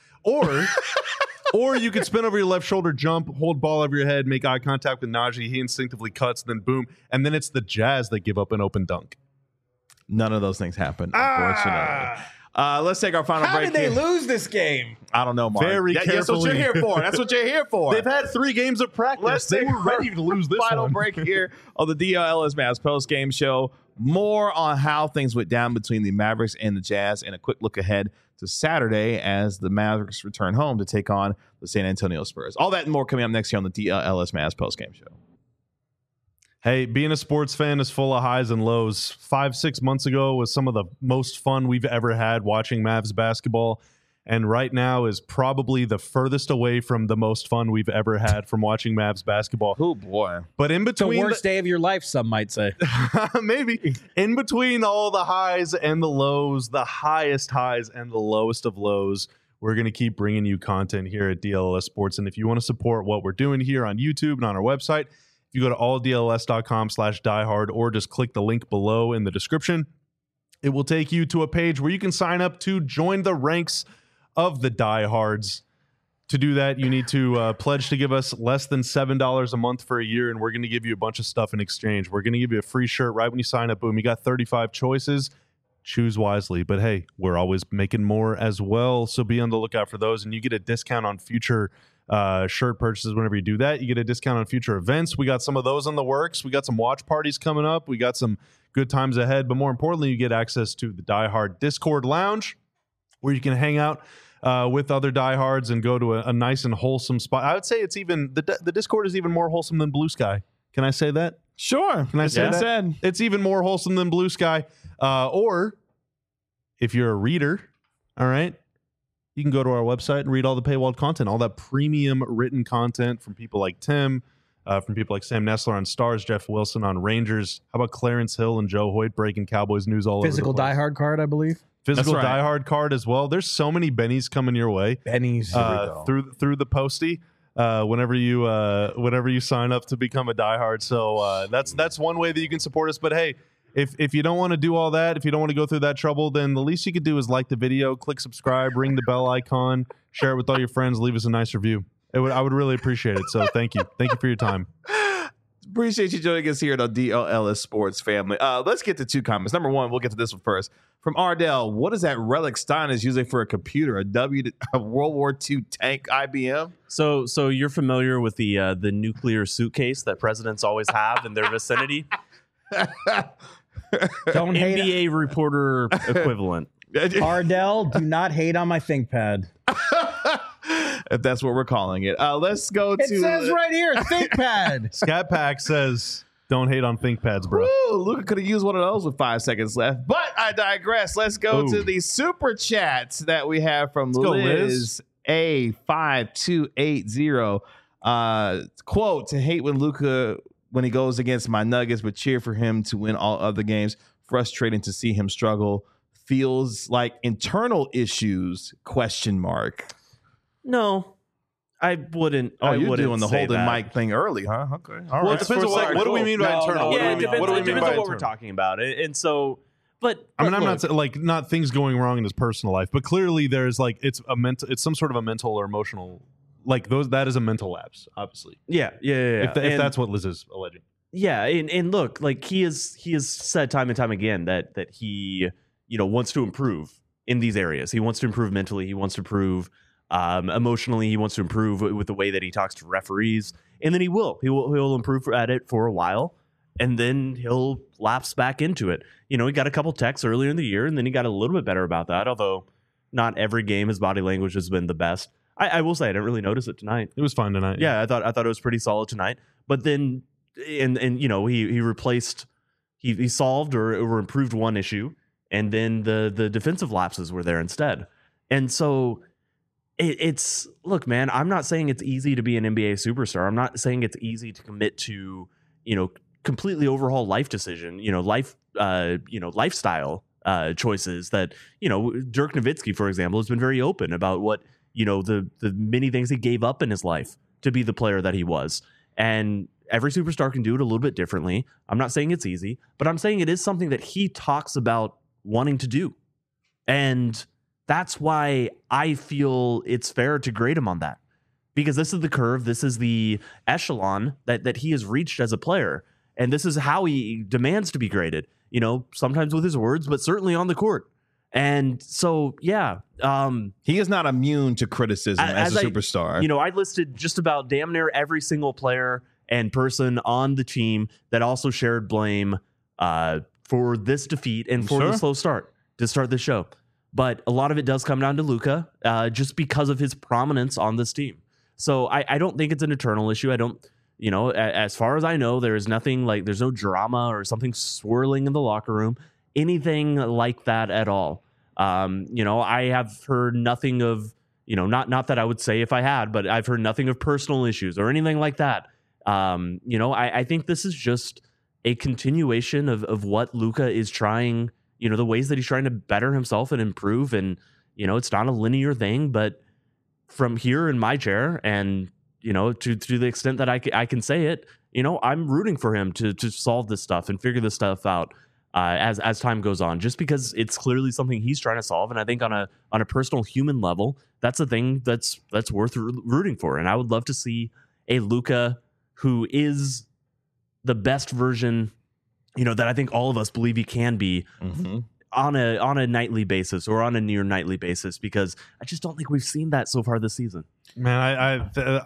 Or you could spin over your left shoulder, jump, hold ball over your head, make eye contact with Najee. He instinctively cuts, then boom. And then it's the Jazz that give up an open dunk. None of those things happened, unfortunately. Let's take our final How break. did they here. lose this game? I don't know, Mark. Very That's what you're carefully. here for. That's what you're here for. They've had 3 games of practice. Let's They take were ready to lose this final one. break here on the DLS Mavs post-game show. More on how things went down between the Mavericks and the Jazz, and a quick look ahead to Saturday as the Mavericks return home to take on the San Antonio Spurs. All that and more coming up next here on the DLS Mavs post-game show. Hey, being a sports fan is full of highs and lows. 5-6 months ago was some of the most fun we've ever had watching Mavs basketball. And right now is probably the furthest away from the most fun we've ever had from watching Mavs basketball. Oh, boy. But in The between worst day of your life, some might say. maybe in between all the highs and the lows, the highest highs and the lowest of lows, we're going to keep bringing you content here at DLS Sports. And if you want to support what we're doing here on YouTube and on our website, if you go to alldls.com/diehard or just click the link below in the description, it will take you to a page where you can sign up to join the ranks of the diehards. To do that, you need to pledge to give us less than $7 a month for a year, and we're going to give you a bunch of stuff in exchange. We're going to give you a free shirt right when you sign up. Boom, you got 35 choices. Choose wisely. But hey, we're always making more as well, so be on the lookout for those, and you get a discount on future shirt purchases whenever you do that. You get a discount on future events. We got some of those in the works. We got some watch parties coming up. We got some good times ahead, but more importantly, you get access to the Die Hard Discord Lounge, where you can hang out with other diehards and go to a nice and wholesome spot. I would say it's even the Discord is even more wholesome than Blue Sky. Can I say that? Sure. Can I say that? Said. It's even more wholesome than Blue Sky. Or if you're a reader, all right, you can go to our website and read all the paywalled content, all that premium written content from people like Tim, from people like Sam Nessler on Stars, Jeff Wilson on Rangers. How about Clarence Hill and Joe Hoyt breaking Cowboys news all Physical over the place? diehard card, I believe. Physical That's right. diehard card as well. There's so many bennies coming your way Benny's. through the postie whenever you sign up to become a diehard. So that's one way that you can support us. But hey, if you don't want to do all that, if you don't want to go through that trouble, then the least you could do is like the video, click subscribe, ring the bell icon, share it with all your friends, leave us a nice review. I would really appreciate it. So thank you for your time. Appreciate you joining us here at the DLS Sports family. Let's get to 2 comments. Number 1, we'll get to this one first. From Ardell, what is that relic Stein is using for a computer? A World War II tank IBM? So you're familiar with the nuclear suitcase that presidents always have in their vicinity? Don't hate NBA reporter equivalent. Ardell, do not hate on my ThinkPad. If that's what we're calling it. Let's go to... It says right here, ThinkPad. Scat Pack says, don't hate on ThinkPads, bro. Woo, Luka could have used one of those with 5 seconds left. But I digress. Let's go to the super chats that we have from go, Liz A5280. Quote, to hate when Luka when he goes against my Nuggets, but cheer for him to win all other games. Frustrating to see him struggle. Feels like internal issues, ? No, I wouldn't. Oh, I you're wouldn't doing the say holding that. mic thing early, huh? Okay. All Well, right. it depends on what do we mean by internal? Yeah, it What do we mean depends by on what we're internal? talking about. And so, but I mean, I'm look, not things going wrong in his personal life, but clearly there's like it's some sort of a mental or emotional, like that is a mental lapse, obviously. Yeah. If that's what Liz is alleging. Yeah, and look, like he has said time and time again that he wants to improve in these areas. He wants to improve mentally. He wants to improve emotionally. He wants to improve with the way that he talks to referees, and then he'll improve at it for a while, and then he'll lapse back into it. He got a couple texts earlier in the year, and then he got a little bit better about that. Although not every game his body language has been the best. I will say I didn't really notice it tonight. It was fine tonight. Yeah, I thought it was pretty solid tonight. But then, and he replaced, he solved or improved one issue, and then the defensive lapses were there instead. And so it's look, man, I'm not saying it's easy to be an NBA superstar. I'm not saying it's easy to commit to completely overhaul life decision, lifestyle choices that Dirk Nowitzki, for example, has been very open about what the many things he gave up in his life to be the player that he was. And every superstar can do it a little bit differently. I'm not saying it's easy, but I'm saying it is something that he talks about wanting to do. And that's why I feel it's fair to grade him on that, because this is the curve. This is the echelon that he has reached as a player. And this is how he demands to be graded, sometimes with his words, but certainly on the court. And so, yeah. He is not immune to criticism as a superstar. I listed just about damn near every single player and person on the team that also shared blame for this defeat and for the slow start to start the show. But a lot of it does come down to Luka just because of his prominence on this team. So I don't think it's an eternal issue. I don't, as far as I know, there is nothing like there's no drama or something swirling in the locker room, anything like that at all. I have heard nothing of, not that I would say if I had, but I've heard nothing of personal issues or anything like that. I think this is just a continuation of what Luka is trying, the ways that he's trying to better himself and improve. And, it's not a linear thing, but from here in my chair and, to the extent that I can say it, I'm rooting for him to solve this stuff and figure this stuff out as time goes on, just because it's clearly something he's trying to solve. And I think on a personal human level, that's a thing that's worth rooting for. And I would love to see a Luka who is the best version, that I think all of us believe he can be on a nightly basis or on a near nightly basis, because I just don't think we've seen that so far this season. Man,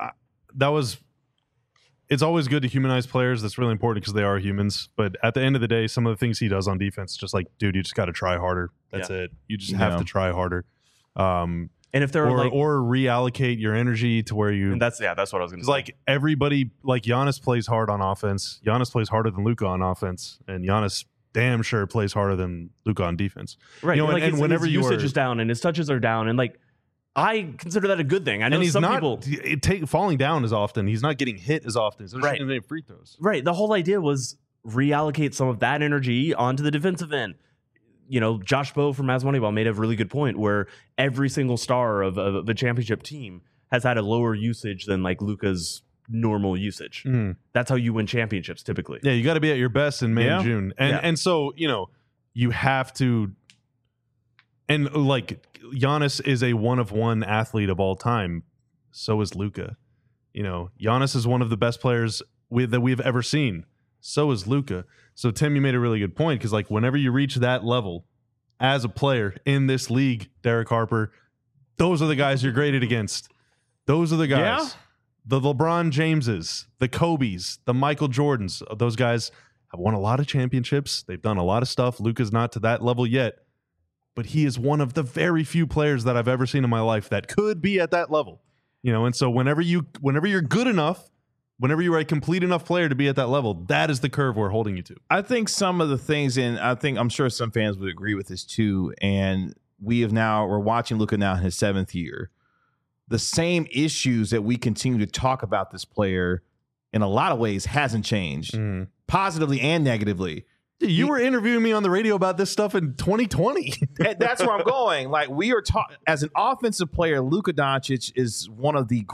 it's always good to humanize players. That's really important because they are humans. But at the end of the day, some of the things he does on defense, just like, dude, you just got to try harder. That's it. You just have to try harder. And if there or reallocate your energy to where you. And that's what I was going to say. Like everybody, like Giannis plays hard on offense. Giannis plays harder than Luka on offense, and Giannis damn sure plays harder than Luka on defense. Right. And whenever his usage is down and his touches are down, and I consider that a good thing. I know some people falling down as often. He's not getting hit as often. He's not shooting any free throws. Right. The whole idea was reallocate some of that energy onto the defensive end. Josh Bowe from Mavs Moneyball made a really good point where every single star of a championship team has had a lower usage than like Luka's normal usage. That's how you win championships typically. Yeah, you got to be at your best in May and June. And so, you have to. And like Giannis is a one-of-one athlete of all time. So is Luka. Giannis is one of the best players that we've ever seen. So is Luka. So Tim, you made a really good point, because like whenever you reach that level as a player in this league, Derek Harper, those are the guys you're graded against. Those are the guys. Yeah. The LeBron Jameses, the Kobes, the Michael Jordans. Those guys have won a lot of championships. They've done a lot of stuff. Luka's not to that level yet, but he is one of the very few players that I've ever seen in my life that could be at that level. And so whenever you're good enough, whenever you're a complete enough player to be at that level, that is the curve we're holding you to. I think some of the things, and I'm sure some fans would agree with this too, and we're watching Luka now in his 7th year. The same issues that we continue to talk about this player in a lot of ways hasn't changed, positively and negatively. Dude, you were interviewing me on the radio about this stuff in 2020. That's where I'm going. Like, we are as an offensive player, Luka Doncic is one of the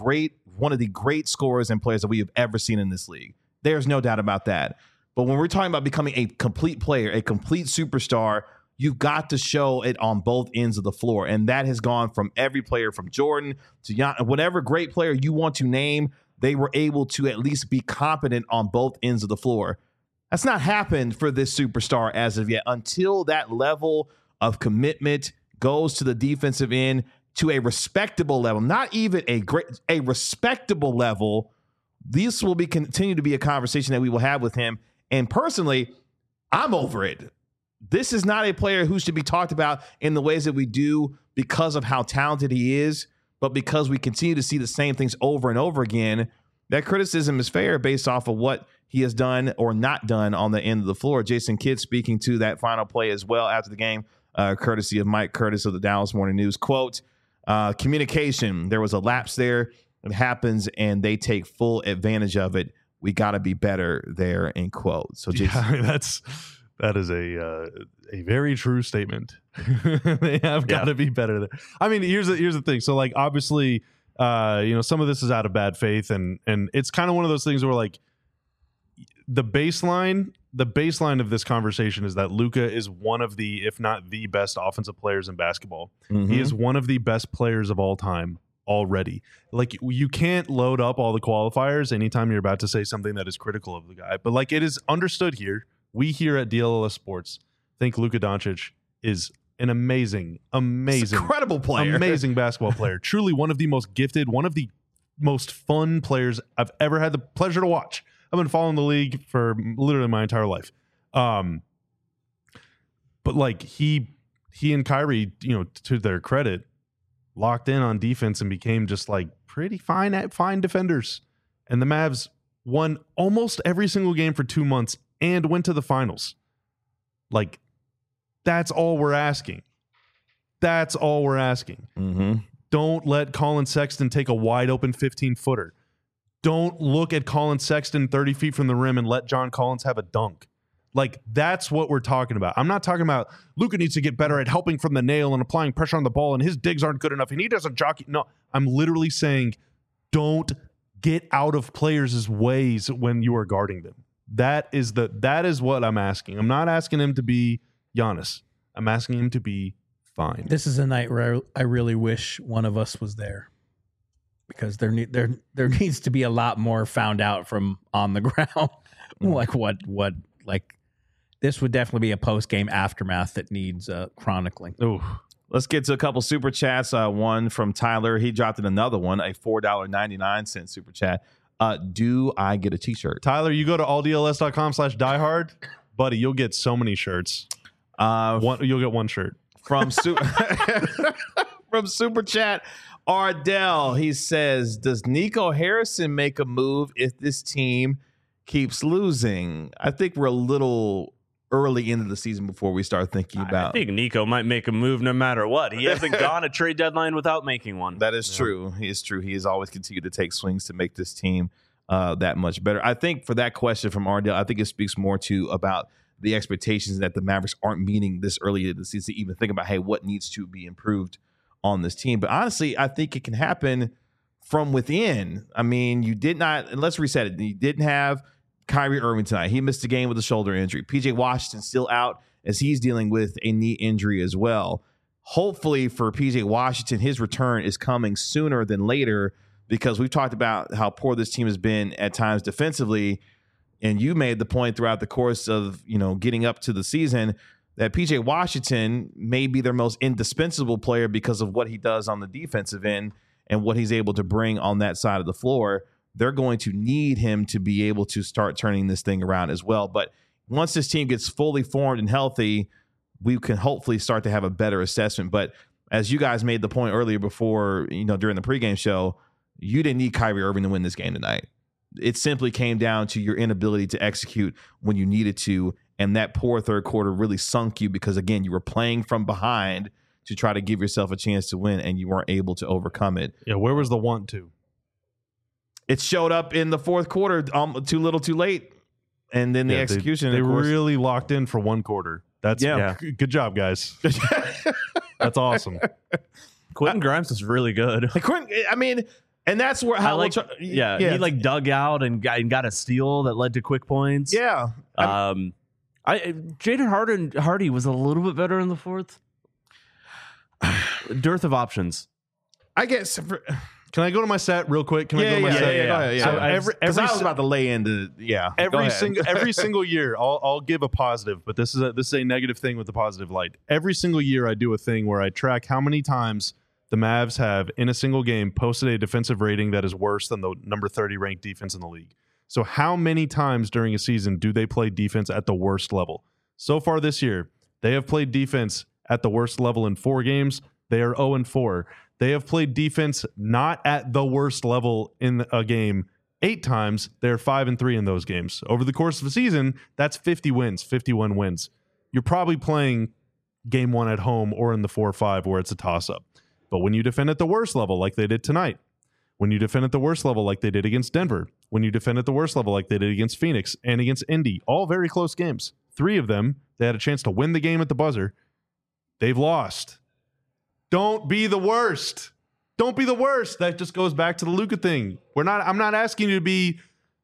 great scorers and players that we have ever seen in this league. There's no doubt about that. But when we're talking about becoming a complete player, a complete superstar, you've got to show it on both ends of the floor. And that has gone from every player, from Jordan to whatever great player you want to name, they were able to at least be competent on both ends of the floor. That's not happened for this superstar as of yet. Until that level of commitment goes to the defensive end to a respectable level, not even a respectable level, this will continue to be a conversation that we will have with him. And personally, I'm over it. This is not a player who should be talked about in the ways that we do because of how talented he is, but because we continue to see the same things over and over again. That criticism is fair based off of what he has done or not done on the end of the floor. Jason Kidd speaking to that final play as well after the game, courtesy of Mike Curtis of the Dallas Morning News. Quote, communication, there was a lapse there. It happens, and they take full advantage of it. We got to be better there, end quote. So Jason, that is a very true statement. They have got to be better there. I mean, here's the thing. So like, obviously, some of this is out of bad faith, and it's kind of one of those things where like the baseline of this conversation is that Luka is one of the, if not the best offensive players in basketball. He is one of the best players of all time already. Like, you can't load up all the qualifiers anytime you're about to say something that is critical of the guy. But like, it is understood here. We here at DLLS Sports think Luka Doncic is an amazing, incredible player, amazing basketball player. Truly one of the most gifted, one of the most fun players I've ever had the pleasure to watch. I've been following the league for literally my entire life. But like he and Kyrie, to their credit, locked in on defense and became just like pretty fine defenders. And the Mavs won almost every single game for 2 months and went to the finals. Like, that's all we're asking. That's all we're asking. Don't let Colin Sexton take a wide open 15-footer. Don't look at Colin Sexton 30 feet from the rim and let John Collins have a dunk. Like, that's what we're talking about. I'm not talking about Luka needs to get better at helping from the nail and applying pressure on the ball and his digs aren't good enough and he doesn't jockey. No, I'm literally saying don't get out of players' ways when you are guarding them. That is what I'm asking. I'm not asking him to be Giannis. I'm asking him to be fine. This is a night where I really wish one of us was there, because there needs to be a lot more found out from on the ground. Like this would definitely be a post game aftermath that needs chronicling. Ooh. Let's get to a couple super chats. One from Tyler. He dropped in another one, a $4.99 super chat. Do I get a t-shirt? Tyler, you go to alldls.com/diehard, buddy. You'll get so many shirts. You'll get one shirt from from super chat. Ardell, he says, does Nico Harrison make a move if this team keeps losing? I think we're a little early into the season before we start thinking about. I think Nico might make a move no matter what. He hasn't gone a trade deadline without making one. That is true. He is true. He has always continued to take swings to make this team that much better. I think for that question from Ardell, I think it speaks more to about the expectations that the Mavericks aren't meeting this early in the season to even think about, hey, what needs to be improved on this team. But honestly, I think it can happen from within. I mean, you did not, and let's reset it. You didn't have Kyrie Irving tonight. He missed a game with a shoulder injury. PJ Washington still out as he's dealing with a knee injury as well. Hopefully for PJ Washington, his return is coming sooner than later because we've talked about how poor this team has been at times defensively. And you made the point throughout the course of, getting up to the season that PJ Washington may be their most indispensable player because of what he does on the defensive end and what he's able to bring on that side of the floor. They're going to need him to be able to start turning this thing around as well. But once this team gets fully formed and healthy, we can hopefully start to have a better assessment. But as you guys made the point earlier before, during the pregame show, you didn't need Kyrie Irving to win this game tonight. It simply came down to your inability to execute when you needed to. And that poor third quarter really sunk you because, again, you were playing from behind to try to give yourself a chance to win, and you weren't able to overcome it. Yeah, where was the want to? It showed up in the fourth quarter, too little, too late. And then the execution. They really locked in for one quarter. That's good job, guys. That's awesome. Quentin Grimes is really good. And that's where he dug out and got a steal that led to quick points. Yeah. Jaden Hardy was a little bit better in the fourth. Dearth of options. I guess. Can I go to my set real quick? Can I go to my set? Yeah, go ahead. Yeah. So I was about to lay into every single year, I'll give a positive, but this is a negative thing with the positive light. Every single year, I do a thing where I track how many times the Mavs have, in a single game, posted a defensive rating that is worse than the number 30 ranked defense in the league. So how many times during a season do they play defense at the worst level? So far this year, they have played defense at the worst level in 4 games. They are 0-4. They have played defense not at the worst level in a game 8 times. They're 5-3 in those games. Over the course of a season, that's 50 wins, 51 wins. You're probably playing game 1 at home or in the 4-5 where it's a toss-up. But when you defend at the worst level like they did tonight, when you defend at the worst level like they did against Denver, when you defend at the worst level like they did against Phoenix and against Indy, all very close games. 3 of them, they had a chance to win the game at the buzzer. They've lost. Don't be the worst. Don't be the worst. That just goes back to the Luka thing. I'm not asking you to be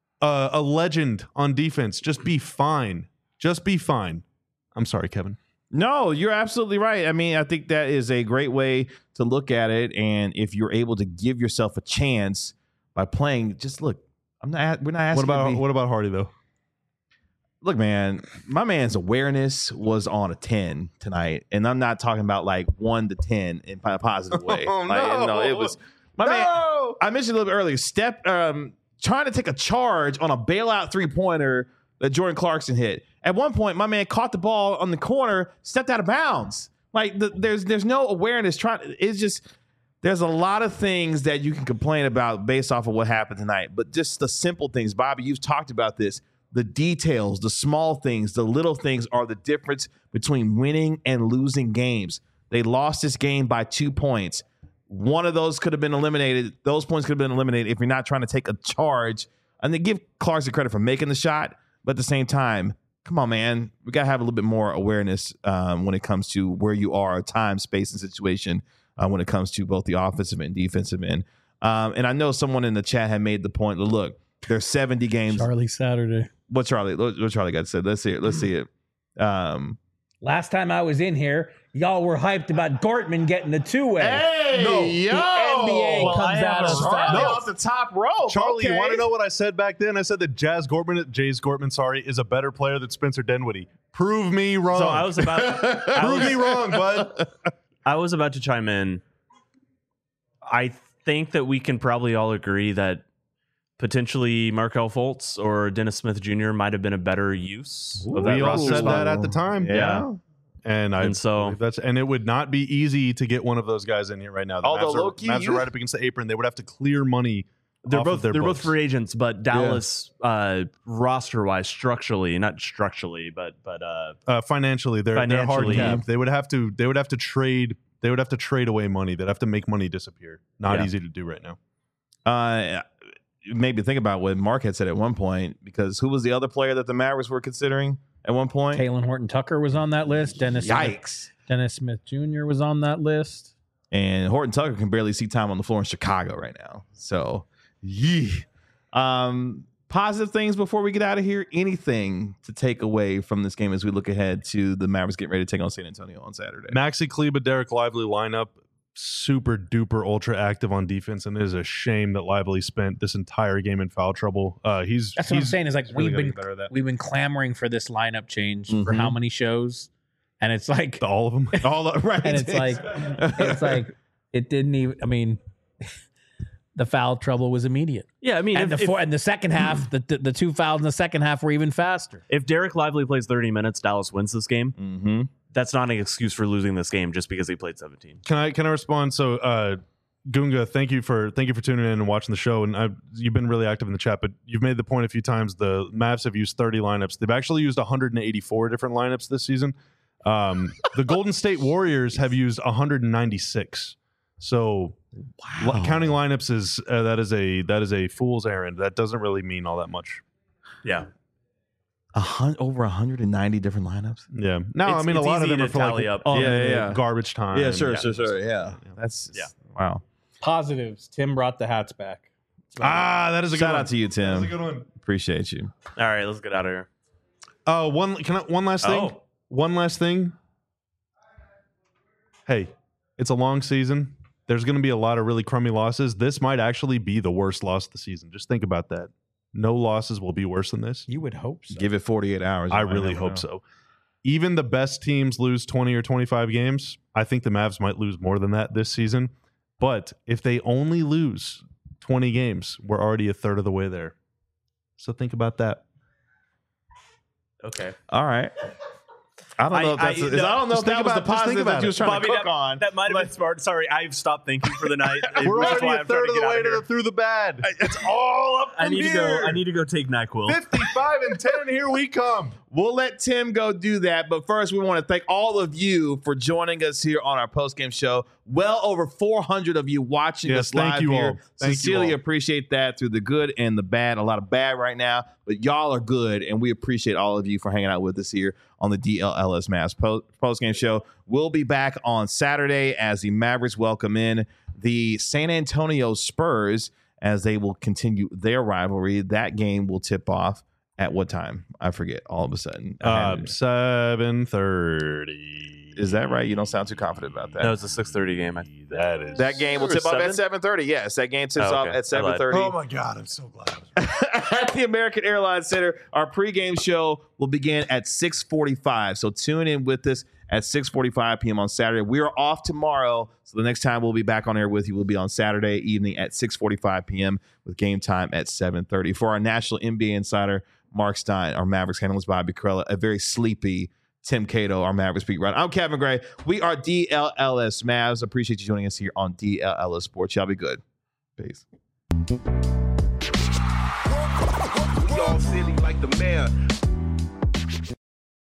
a legend on defense. Just be fine. Just be fine. I'm sorry, Kevin. No, you're absolutely right. I think that is a great way to look at it. And if you're able to give yourself a chance by playing, just look. We're not asking. What about Hardy though? Look, man, my man's awareness was on a 10 tonight, and I'm not talking about like 1 to 10 in a positive way. It was my man. I mentioned a little bit earlier. Trying to take a charge on a bailout 3-pointer that Jordan Clarkson hit. At one point, my man caught the ball on the corner, stepped out of bounds. There's no awareness. There's a lot of things that you can complain about based off of what happened tonight, but just the simple things. Bobby, you've talked about this. The details, the small things, the little things are the difference between winning and losing games. They lost this game by 2 points. One of those could have been eliminated. Those points could have been eliminated if you're not trying to take a charge. And they give Clarkson credit for making the shot, but at the same time, come on, man. We got to have a little bit more awareness when it comes to where you are, time, space, and situation when it comes to both the offensive and defensive end. And I know someone in the chat had made the point, look, there's 70 games. Charlie Saturday. What Charlie got said? Let's see it. Last time I was in here, y'all were hyped about Gortman getting the 2-way. Hey, The NBA comes out of Charlie off the top rope. Charlie, okay. You want to know what I said back then? I said that Jays Gortman, is a better player than Spencer Dinwiddie. Prove me wrong. So I was about prove me wrong, bud. I was about to chime in. I think that we can probably all agree that potentially Markelle Fultz or Dennis Smith Jr. might have been a better use of that We all roster said spot. that at the time. Yeah. And it would not be easy to get one of those guys in here right now. The Mavs are right up against the apron. They would have to clear money. They're off both of both free agents, but Dallas roster wise, not structurally, but financially, they're hard financially, capped. They would have to trade. They would have to trade away money. They'd have to make money disappear. Not easy to do right now. It made me think about what Mark had said at one point, because who was the other player that the Mavericks were considering at one point? Talen Horton-Tucker was on that list. Dennis Smith Jr. was on that list. And Horton-Tucker can barely see time on the floor in Chicago right now. So, positive things before we get out of here. Anything to take away from this game as we look ahead to the Mavericks getting ready to take on San Antonio on Saturday? Maxi Kleber, Derek Lively lineup super duper ultra active on defense, and it is a shame that Lively spent this entire game in foul trouble. That's what I'm saying is like really we've been clamoring for this lineup change for how many shows, and it's like all of them, right? And it's like it didn't even. I mean, the foul trouble was immediate. Yeah, I mean, and the second half, the 2 fouls in the second half were even faster. If Derek Lively plays 30 minutes, Dallas wins this game. Mm-hmm. That's not an excuse for losing this game just because he played 17. Can I respond? So, Gunga, thank you for tuning in and watching the show. And you've been really active in the chat, but you've made the point a few times. The Mavs have used 30 lineups. They've actually used 184 different lineups this season. The Golden State Warriors have used 196. So, counting lineups is that is a fool's errand. That doesn't really mean all that much. Yeah. Over 190 different lineups. Yeah. No, I mean, a lot of them are for like up. garbage time. Yeah, sure. Yeah. That's wow. Positives. Tim brought the hats back. That is a good Shout one. out to you, Tim. That's a good one. Appreciate you. All right, let's get out of here. One last thing. Oh. One last thing. Hey, it's a long season. There's going to be a lot of really crummy losses. This might actually be the worst loss of the season. Just think about that. No losses will be worse than this. You would hope so. Give it 48 hours. I really hope so. Even the best teams lose 20 or 25 games. I think the Mavs might lose more than that this season. But if they only lose 20 games, we're already a third of the way there. So think about that. Okay. All right. I don't know if that's. I don't know if that was the positive that you was trying to cook on. That might have been smart. Sorry, I've stopped thinking for the night. We're That's already why a I'm trying third to of the get out way of here. through the bad. It's all up. I need to go. I need to go take NyQuil. 55 and 10. Here we come. We'll let Tim go do that. But first, we want to thank all of you for joining us here on our postgame show. Well over 400 of you watching us live thank you here. all. Thank Sincerely you all. appreciate that through the good and the bad. A lot of bad right now, but y'all are good, and we appreciate all of you for hanging out with us here on the DLLS Mavs postgame show. We'll be back on Saturday as the Mavericks welcome in the San Antonio Spurs as they will continue their rivalry. That game will tip off at what time? I forget all of a sudden. 7:30. Is that right? You don't sound too confident about that. No, it's a 6:30 game. That game will tip off at 7:30. Yes, that game tips off at 7:30. Oh my God, I'm so glad. At the American Airlines Center. Our pregame show will begin at 6:45. So tune in with us at 6:45 p.m. on Saturday. We are off tomorrow, so the next time we'll be back on air with you will be on Saturday evening at 6:45 p.m. with game time at 7:30. For our national NBA insider, Mark Stein, our Mavericks analyst, Bobby Carella, a very sleepy Tim Cato, our Mavericks beat writer. I'm Kevin Gray. We are DLLS Mavs. Appreciate you joining us here on DLLS Sports. Y'all be good. Peace. We all silly like the mayor.